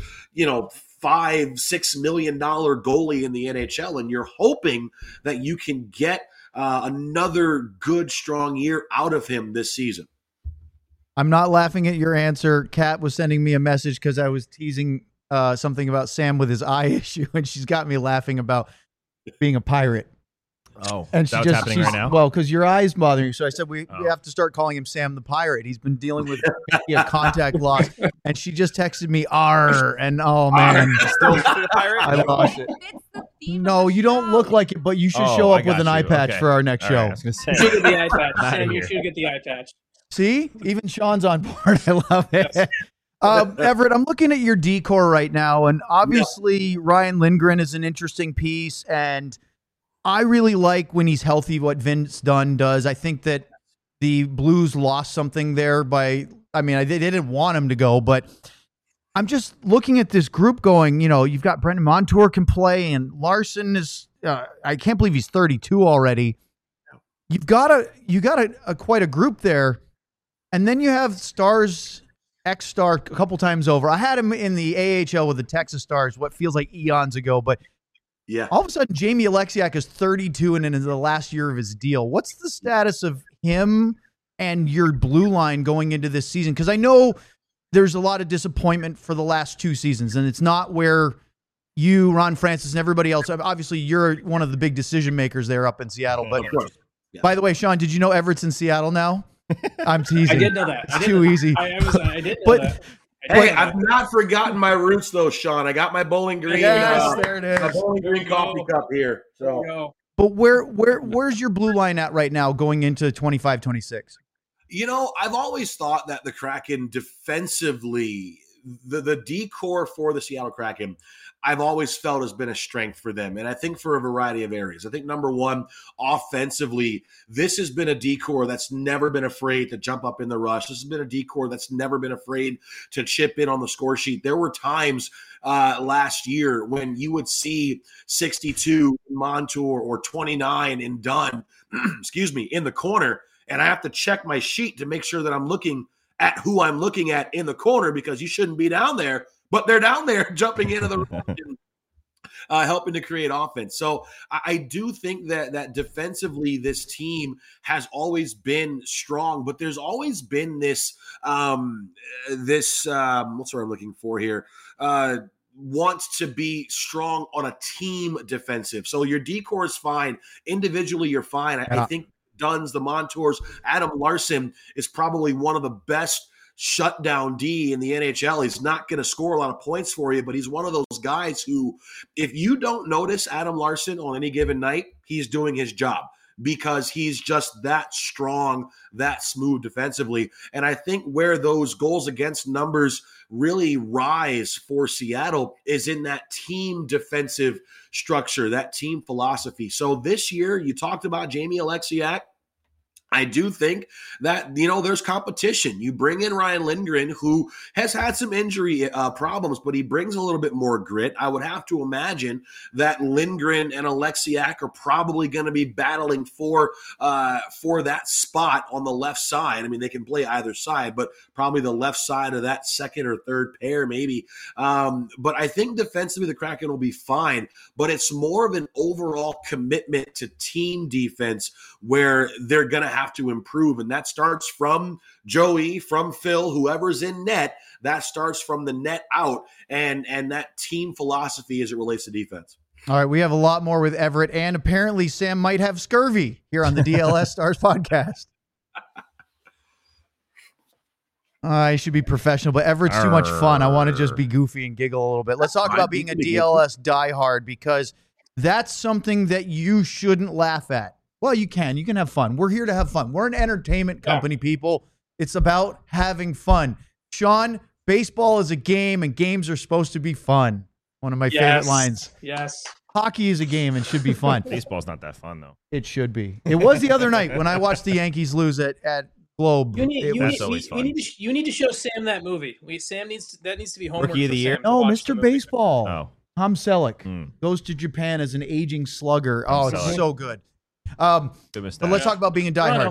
$5-6 million goalie in the NHL, and you're hoping that you can get another good, strong year out of him this season. I'm not laughing at your answer. Kat was sending me a message because I was teasing something about Sam with his eye issue, and she's got me laughing about being a pirate. Oh, and that's happening right now? Well, because your eye's bothering you. So I said, we have to start calling him Sam the Pirate. He's been dealing with contact loss. And she just texted me, R. And oh, man. Still the pirate? I lost it. No, you don't look like it, but you should show up with an eye patch for our next show. Right, I was gonna say. You should get the eye patch. Sam, you should get the eye patch. See? Even Sean's on board. I love it. Yes. Everett, I'm looking at your decor right now, and obviously Ryan Lindgren is an interesting piece, and I really like when he's healthy what Vince Dunn does. I think that the Blues lost something there they didn't want him to go, but I'm just looking at this group going, you've got Brendan Montour can play, and Larson is, I can't believe he's 32 already. You've got a quite a group there, and then you have Stars, ex-Star a couple times over. I had him in the AHL with the Texas Stars, what feels like eons ago, but yeah. All of a sudden, Jamie Alexiak is 32 and in the last year of his deal. What's the status of him and your blue line going into this season? Because I know there's a lot of disappointment for the last 2 seasons, and it's not where you, Ron Francis, and everybody else. Obviously, you're one of the big decision makers there up in Seattle. But by the way, Sean, did you know Everett's in Seattle now? I'm teasing. I did know that. It's too easy. I did know that. Hey, I've not forgotten my roots, though, Sean. I got my Bowling Green. Yes, there it is. My Bowling Green coffee cup here. So, but where's your blue line at right now going into 25-26? I've always thought that the Kraken defensively, the decor for the Seattle Kraken, I've always felt has been a strength for them. And I think for a variety of areas. I think number one, offensively, this has been a decor that's never been afraid to jump up in the rush. This has been a decor that's never been afraid to chip in on the score sheet. There were times last year when you would see 62 in Montour or 29 in Dunn, excuse me, in the corner. And I have to check my sheet to make sure that I'm looking at who I'm looking at in the corner, because you shouldn't be down there, but they're down there jumping into the helping to create offense. So I do think that defensively, this team has always been strong, but there's always been this what's what I'm looking for here. Wants to be strong on a team defensive. So your decor is fine. Individually, you're fine. I think Dunn's, the Montours, Adam Larson is probably one of the best shutdown D in the NHL. He's not going to score a lot of points for you, but he's one of those guys who, if you don't notice Adam Larson on any given night, he's doing his job, because he's just that strong, that smooth defensively. And I think where those goals against numbers really rise for Seattle is in that team defensive structure, that team philosophy. So this year, you talked about Jamie Alexiak. I do think that, there's competition. You bring in Ryan Lindgren, who has had some injury problems, but he brings a little bit more grit. I would have to imagine that Lindgren and Alexiak are probably going to be battling for that spot on the left side. I mean, they can play either side, but probably the left side of that second or third pair, maybe. But I think defensively, the Kraken will be fine, but it's more of an overall commitment to team defense where they're going to have to improve. And that starts from Joey, from Phil, whoever's in net. That starts from the net out and that team philosophy as it relates to defense. All right, we have a lot more with Everett, and apparently Sam might have scurvy here on the DLS Stars podcast. I should be professional, but Everett's too much fun. I want to just be goofy and giggle a little bit. Let's talk about being a DLS diehard, because that's something that you shouldn't laugh at. Well, you can have fun. We're here to have fun. We're an entertainment company, people. It's about having fun. Sean, baseball is a game, and games are supposed to be fun. One of my favorite lines. Yes. Hockey is a game and should be fun. Baseball's not that fun, though. It should be. It was the other night when I watched the Yankees lose at Globe. You need to show Sam that movie. That needs to be homework. Rookie of the year? No, Mr. Baseball. Oh. Tom Selleck goes to Japan as an aging slugger. It's so good. Good mustache. But let's talk about being a diehard.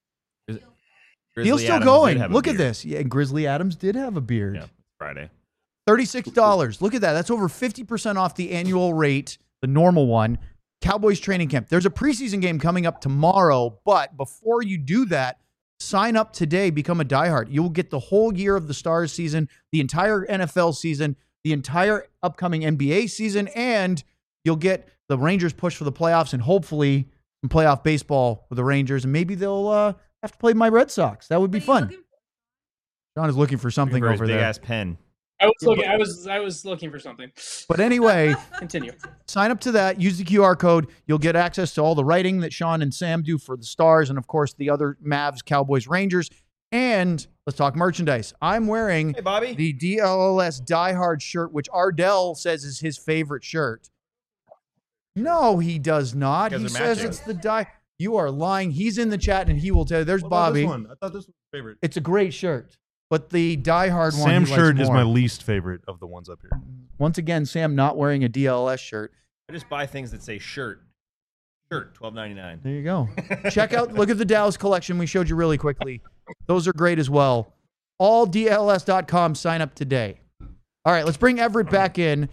He's still going. Look at this. Yeah, and Grizzly Adams did have a beard. Yeah, Friday. $36. Look at that. That's over 50% off the annual rate, the normal one. Cowboys training camp. There's a preseason game coming up tomorrow, but before you do that, sign up today, become a diehard. You will get the whole year of the Stars season, the entire NFL season, the entire upcoming NBA season, and you'll get the Rangers push for the playoffs and hopefully some playoff baseball with the Rangers, and maybe they'll have to play my Red Sox. That would be fun. John is looking for something over there. Big ass pen. I was looking for something. But anyway, continue. Sign up to that. Use the QR code. You'll get access to all the writing that Sean and Sam do for the Stars, and of course the other Mavs, Cowboys, Rangers. And let's talk merchandise. I'm wearing the DLS diehard shirt, which Ardell says is his favorite shirt. No, he does not. He says it's the die. You are lying. He's in the chat, and he will tell you. There's Bobby. This one? I thought this was my favorite. It's a great shirt, but the diehard one. Sam's shirt is my least favorite of the ones up here. Once again, Sam not wearing a DLS shirt. I just buy things that say shirt. Shirt, $12.99. There you go. Check out, look at the Dallas collection we showed you really quickly. Those are great as well. AllDLS.com. Sign up today. All right, let's bring Everett back in.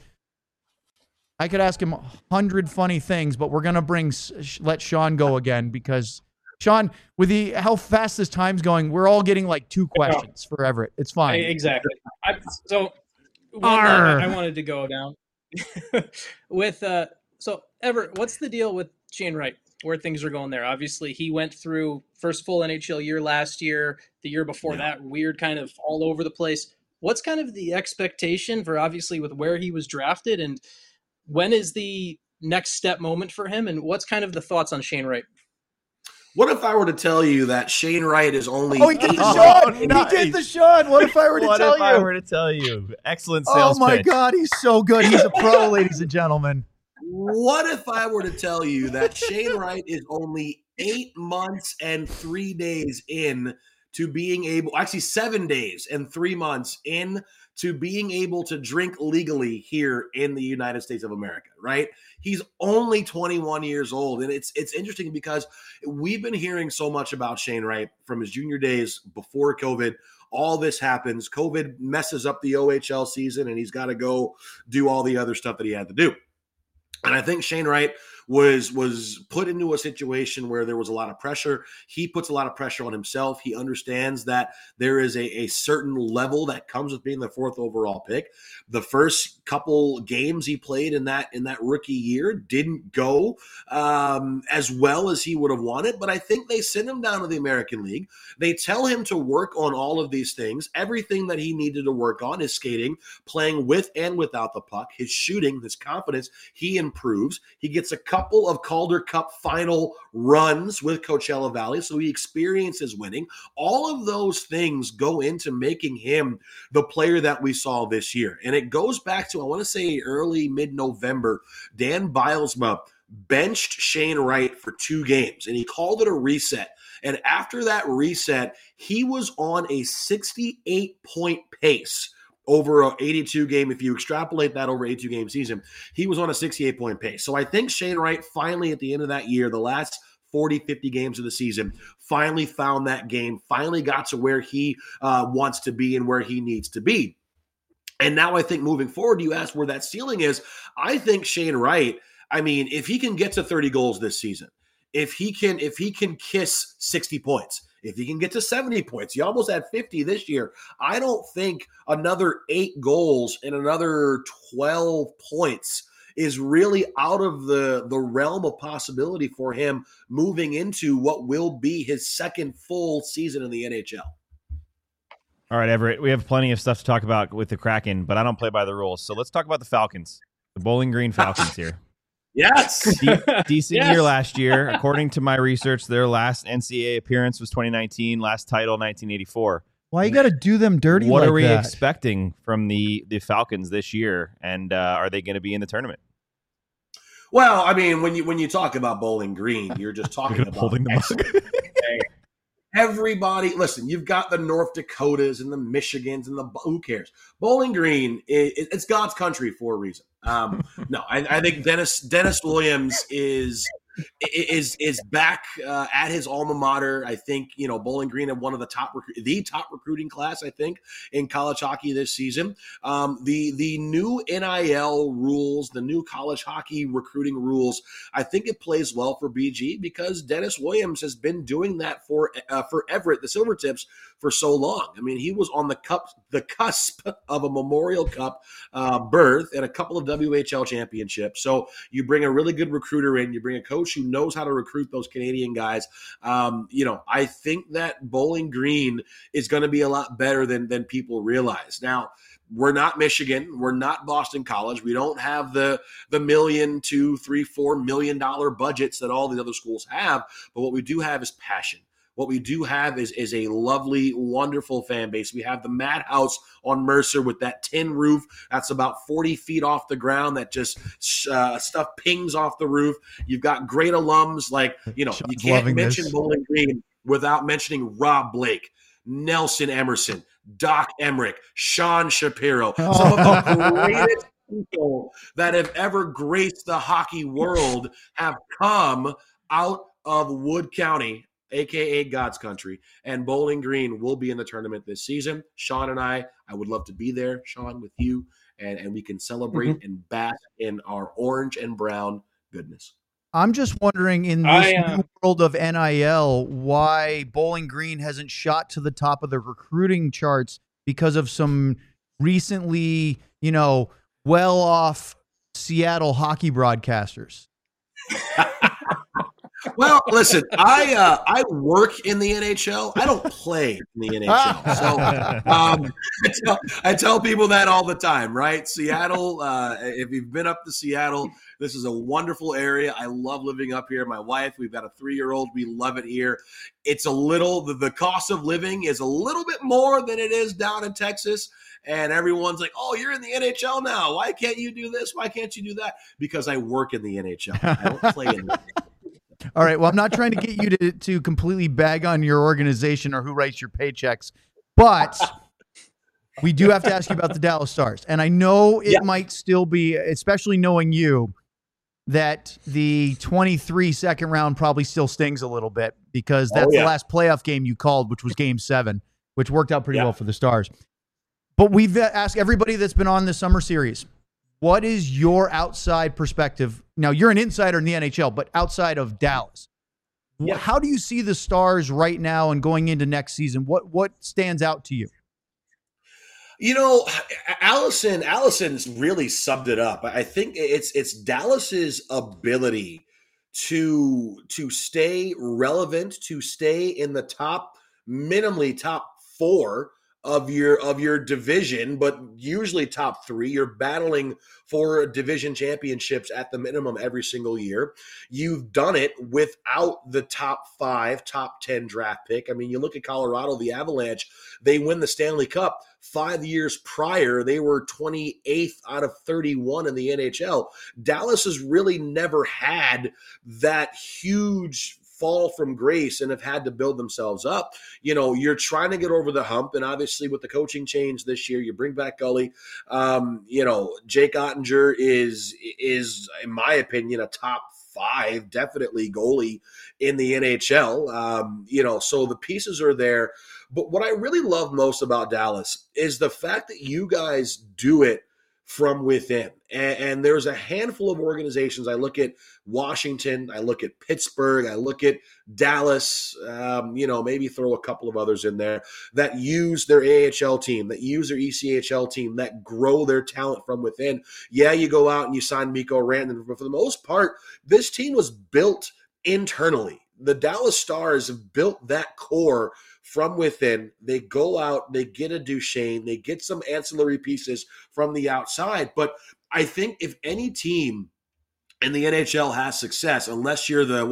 I could ask him 100 funny things, but we're going to let Sean go again because, Sean, with how fast this time's going, we're all getting like 2 questions for Everett. It's fine. Exactly. So I wanted to go down with so Everett, what's the deal with Shane Wright, where things are going there? Obviously, he went through first full NHL year last year, the year before that, weird kind of all over the place. What's kind of the expectation for, obviously, with where he was drafted, and when is the next step moment for him, and what's kind of the thoughts on Shane Wright? What if I were to tell you that Shane Wright is only? Oh, he did the Oh, Sean. nice. He did the Sean. What if I were to What tell if you? I were to tell you? Excellent Oh sales my pitch. God, he's so good. He's a pro, ladies and gentlemen. What if I were to tell you that Shane Wright is only 8 months and 3 days in to being able, actually 7 days and 3 months in to being able to drink legally here in the United States of America, right? He's only 21 years old. And it's interesting because we've been hearing so much about Shane Wright from his junior days before COVID. All this happens. COVID messes up the OHL season, and he's got to go do all the other stuff that he had to do. And I think Shane Wright was put into a situation where there was a lot of pressure. He puts a lot of pressure on himself. He understands that there is a certain level that comes with being the 4th overall pick. The first couple games he played in that rookie year didn't go as well as he would have wanted, but I think they send him down to the American League. They tell him to work on all of these things. Everything that he needed to work on, his skating, playing with and without the puck, his shooting, his confidence, he improves. He gets a couple of Calder Cup final runs with Coachella Valley, so he experiences winning. All of those things go into making him the player that we saw this year. And it goes back to, I want to say early mid-November, Dan Bilesma benched Shane Wright for 2 games, and he called it a reset. And after that reset, he was on a 68-point pace over an 82 game. If you extrapolate that over 82 game season, he was on a 68-point pace. So I think Shane Wright finally at the end of that year, the last 40, 50 games of the season, finally found that game, finally got to where he wants to be and where he needs to be. And now I think moving forward, you asked where that ceiling is. I think Shane Wright, I mean, if he can get to 30 goals this season, if he can kiss 60 points, if he can get to 70 points, he almost had 50 this year. I don't think another 8 goals and another 12 points is really out of the realm of possibility for him moving into what will be his second full season in the NHL. All right, Everett, we have plenty of stuff to talk about with the Kraken, but I don't play by the rules. So let's talk about the Falcons, the Bowling Green Falcons here. Yes. Decent year last year. According to my research, their last NCAA appearance was 2019, last title 1984. Why you got to do them dirty What like are we that? expecting from the Falcons this year, and are they going to be in the tournament? Well, I mean, when you talk about Bowling Green, you're just talking about holding the mug. Everybody, listen, you've got the North Dakotas and the Michigans and who cares? Bowling Green, it's God's country for a reason. No, I think Dennis Williams is back at his alma mater. I think, Bowling Green had one of the top recruiting class, I think, in college hockey this season. The new NIL rules, the new college hockey recruiting rules, I think it plays well for BG because Dennis Williams has been doing that for Everett, the Silvertips, for so long. I mean, he was on the cusp of a Memorial Cup berth and a couple of WHL championships. So you bring a really good recruiter in, you bring a coach who knows how to recruit those Canadian guys. I think that Bowling Green is going to be a lot better than people realize. Now, we're not Michigan. We're not Boston College. We don't have the $1 million, $2, $3, $4 million budgets that all the other schools have. But what we do have is passion. What we do have is a lovely, wonderful fan base. We have the Madhouse on Mercer with that tin roof that's about 40 feet off the ground that just stuff pings off the roof. You've got great alums like, you can't mention Bowling Green without mentioning Rob Blake, Nelson Emerson, Doc Emmerich, Sean Shapiro, some of the greatest people that have ever graced the hockey world have come out of Wood County, a.k.a. God's country, and Bowling Green will be in the tournament this season. Sean and I would love to be there, Sean, with you, and we can celebrate and bask in our orange and brown goodness. I'm just wondering in this new world of NIL, why Bowling Green hasn't shot to the top of the recruiting charts because of some recently, well-off Seattle hockey broadcasters. Well, listen, I work in the NHL. I don't play in the NHL. So I tell people that all the time, right? Seattle, if you've been up to Seattle, this is a wonderful area. I love living up here. My wife, we've got a 3-year-old. We love it here. It's a little, the cost of living is a little bit more than it is down in Texas. And everyone's like, oh, you're in the NHL now. Why can't you do this? Why can't you do that? Because I work in the NHL. I don't play in the NHL. All right. Well, I'm not trying to get you to completely bag on your organization or who writes your paychecks, but we do have to ask you about the Dallas Stars. And I know it might still be, especially knowing you, that the 23 second round probably still stings a little bit because that's the last playoff game you called, which was Game 7, which worked out pretty well for the Stars. But we've asked everybody that's been on this summer series, what is your outside perspective? Now, you're an insider in the NHL, but outside of Dallas, how do you see the Stars right now and going into next season? What stands out to you? You know, Allison's really summed it up. I think it's Dallas's ability to stay relevant, to stay in the minimally top 4 of your division, but usually top 3. You're battling for division championships at the minimum every single year. You've done it without the top 5, top 10 draft pick. I mean, you look at Colorado, the Avalanche, they win the Stanley Cup. 5 years prior, they were 28th out of 31 in the NHL. Dallas has really never had that huge fall from grace and have had to build themselves up. You know, you're trying to get over the hump, and obviously with the coaching change this year, you bring back Gully. You know, Jake Ottinger is in my opinion a top 5 definitely goalie in the NHL. You know, so the pieces are there. But what I really love most about Dallas is the fact that you guys do it from within. And there's a handful of organizations. I look at Washington, I look at Pittsburgh, I look at Dallas, you know, maybe throw a couple of others in there that use their AHL team, that use their ECHL team, that grow their talent from within. Yeah, you go out and you sign Mikko Rantanen, but for the most part, this team was built internally. The Dallas Stars have built that core from within. They go out, they get a Duchesne, they get some ancillary pieces from the outside. But I think if any team in the NHL has success, unless you're the,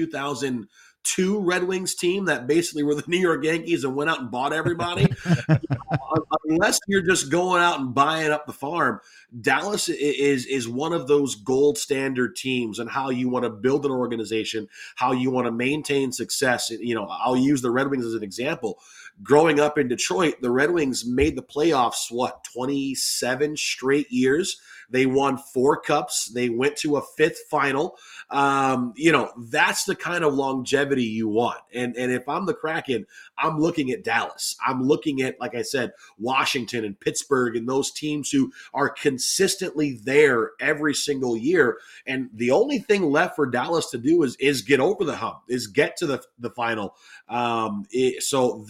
2002 Red Wings team that basically were the New York Yankees and went out and bought everybody, unless you're just going out and buying up the farm, Dallas is one of those gold standard teams and how you want to build an organization, how you want to maintain success. You know, I'll use the Red Wings as an example. Growing up in Detroit, the Red Wings made the playoffs, 27 straight years. They won 4 cups. They went to a 5th final. You know, that's the kind of longevity you want. And if I'm the Kraken, I'm looking at Dallas. I'm looking at, like I said, Washington and Pittsburgh and those teams who are consistently there every single year. And the only thing left for Dallas to do is get over the hump, is get to the final. So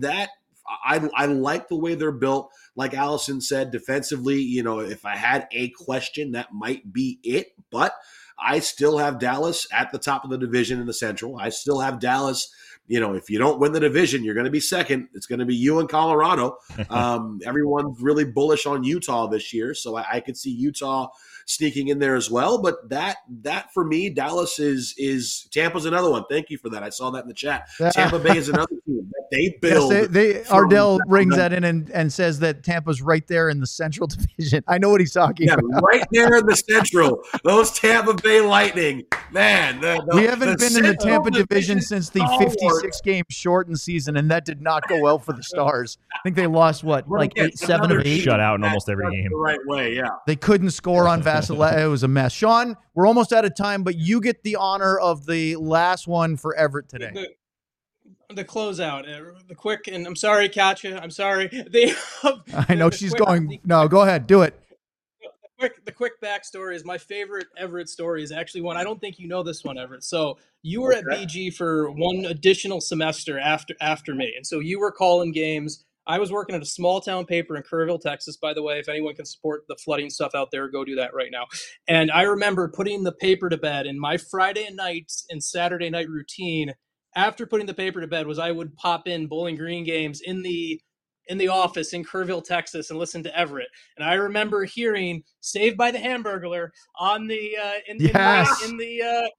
I like the way they're built. Like Allison said, defensively, you know, if I had a question, that might be it. But I still have Dallas at the top of the division in the Central. I still have Dallas. You know, if you don't win the division, you're going to be second. It's going to be you and Colorado. Everyone's really bullish on Utah this year, so I could see Utah sneaking in there as well. But that for me, Dallas is Tampa's another one. Thank you for that. I saw that in the chat. Tampa Bay is another team that they build. Yes, Ardell rings that in and says that Tampa's right there in the Central Division. I know what he's talking about. Right there in the Central. Those Tampa Bay Lightning, man. We haven't been in the Tampa Division since the 56-game shortened season, and that did not go well for the Stars. I think they lost, like 7 of 8? Shut out in almost every game. The right way, yeah. They couldn't score on Vasilevskiy. It was a mess. Sean, we're almost out of time, but you get the honor of the last one for Everett today. The closeout, the quick, and I'm sorry, Katja. I'm sorry. I know she's going. No, go ahead. Do it. The quick backstory is my favorite Everett story is actually one. I don't think you know this one, Everett. So you were at BG for one additional semester after me. And so you were calling games. I was working at a small town paper in Kerrville, Texas, by the way. If anyone can support the flooding stuff out there, go do that right now. And I remember putting the paper to bed, and my Friday night and Saturday night routine after putting the paper to bed was I would pop in Bowling Green games in the office in Kerrville, Texas, and listen to Everett. And I remember hearing "Saved by the Hamburglar" on the in the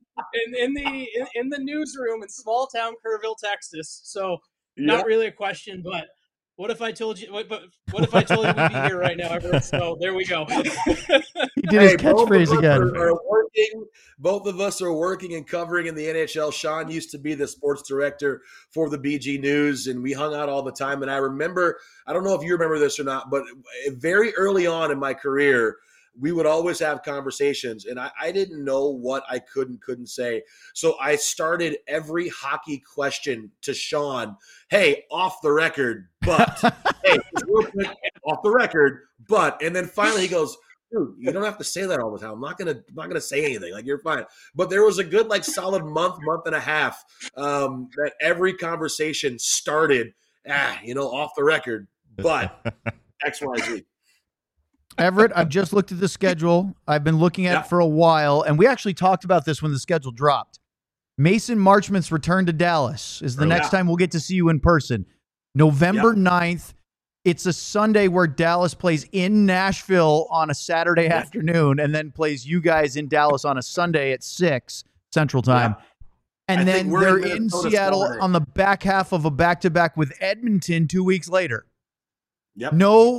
newsroom in small town Kerrville, Texas. So not really a question, but what if I told you? What if I told you we'd be here right now, Everett? So there we go. He did his catchphrase again. Both of us are working and covering in the NHL. Sean used to be the sports director for the BG News, and we hung out all the time. And I remember, I don't know if you remember this or not, but very early on in my career, we would always have conversations, and I didn't know what I couldn't say. So I started every hockey question to Sean, hey, off the record, but, hey, real quick, off the record, but, and then finally he goes, dude, you don't have to say that all the time. I'm not gonna say anything. Like, you're fine. But there was a good, like, solid month and a half that every conversation started, off the record, but XYZ. Everett, I've just looked at the schedule. I've been looking at it for a while, and we actually talked about this when the schedule dropped. Mason Marchmont's return to Dallas is the next time we'll get to see you in person. November 9th. It's a Sunday where Dallas plays in Nashville on a Saturday afternoon and then plays you guys in Dallas on a Sunday at 6 Central Time. And then they're in Seattle on the back half of a back-to-back with Edmonton 2 weeks later. Yep.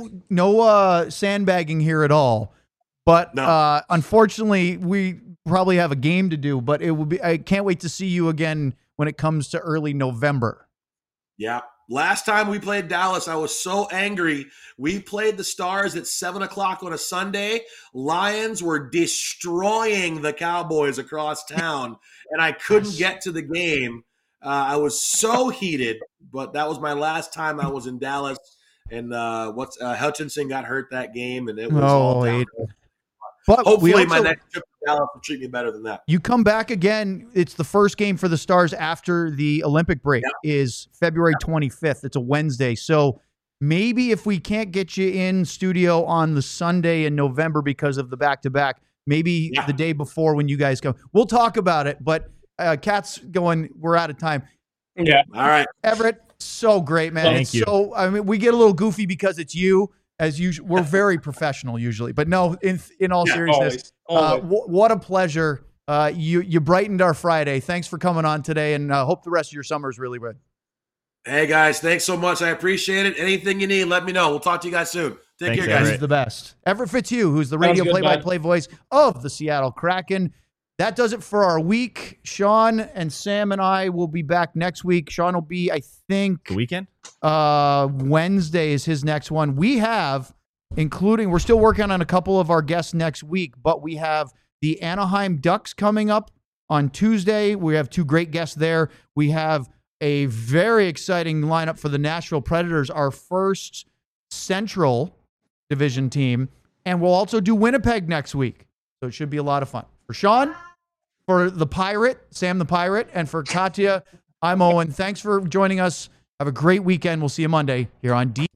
No sandbagging here at all. But unfortunately, we probably have a game to do. But it will be. I can't wait to see you again when it comes to early November. Yeah. Last time we played Dallas, I was so angry. We played the Stars at 7:00 on a Sunday. Lions were destroying the Cowboys across town, and I couldn't get to the game. I was so heated. But that was my last time I was in Dallas. And Hutchinson got hurt that game, and it was all down. But hopefully my next trip to Dallas will treat me better than that. You come back again. It's the first game for the Stars after the Olympic break is February 25th. It's a Wednesday. So maybe if we can't get you in studio on the Sunday in November because of the back-to-back, maybe the day before when you guys come. We'll talk about it. But Kat's going, we're out of time. Yeah. All right. Everett, so great, man. Thank you. So, I mean, we get a little goofy because it's you, as usual. We're very professional usually, but no, in all seriousness, always. What a pleasure. You brightened our Friday. Thanks for coming on today, and hope the rest of your summer is really good. Hey, guys, thanks so much. I appreciate it. Anything you need, let me know. We'll talk to you guys soon. Take care, guys. He's the best. Everett Fitzhugh, who's the radio play-by-play voice of the Seattle Kraken. That does it for our week. Sean and Sam and I will be back next week. Sean will be, I think, the weekend. Wednesday is his next one. We have, we're still working on a couple of our guests next week, but we have the Anaheim Ducks coming up on Tuesday. We have two great guests there. We have a very exciting lineup for the Nashville Predators, our first Central Division team, and we'll also do Winnipeg next week. So it should be a lot of fun. For Sean, for the Pirate, Sam the Pirate, and for Katya, I'm Owen. Thanks for joining us. Have a great weekend. We'll see you Monday here on D.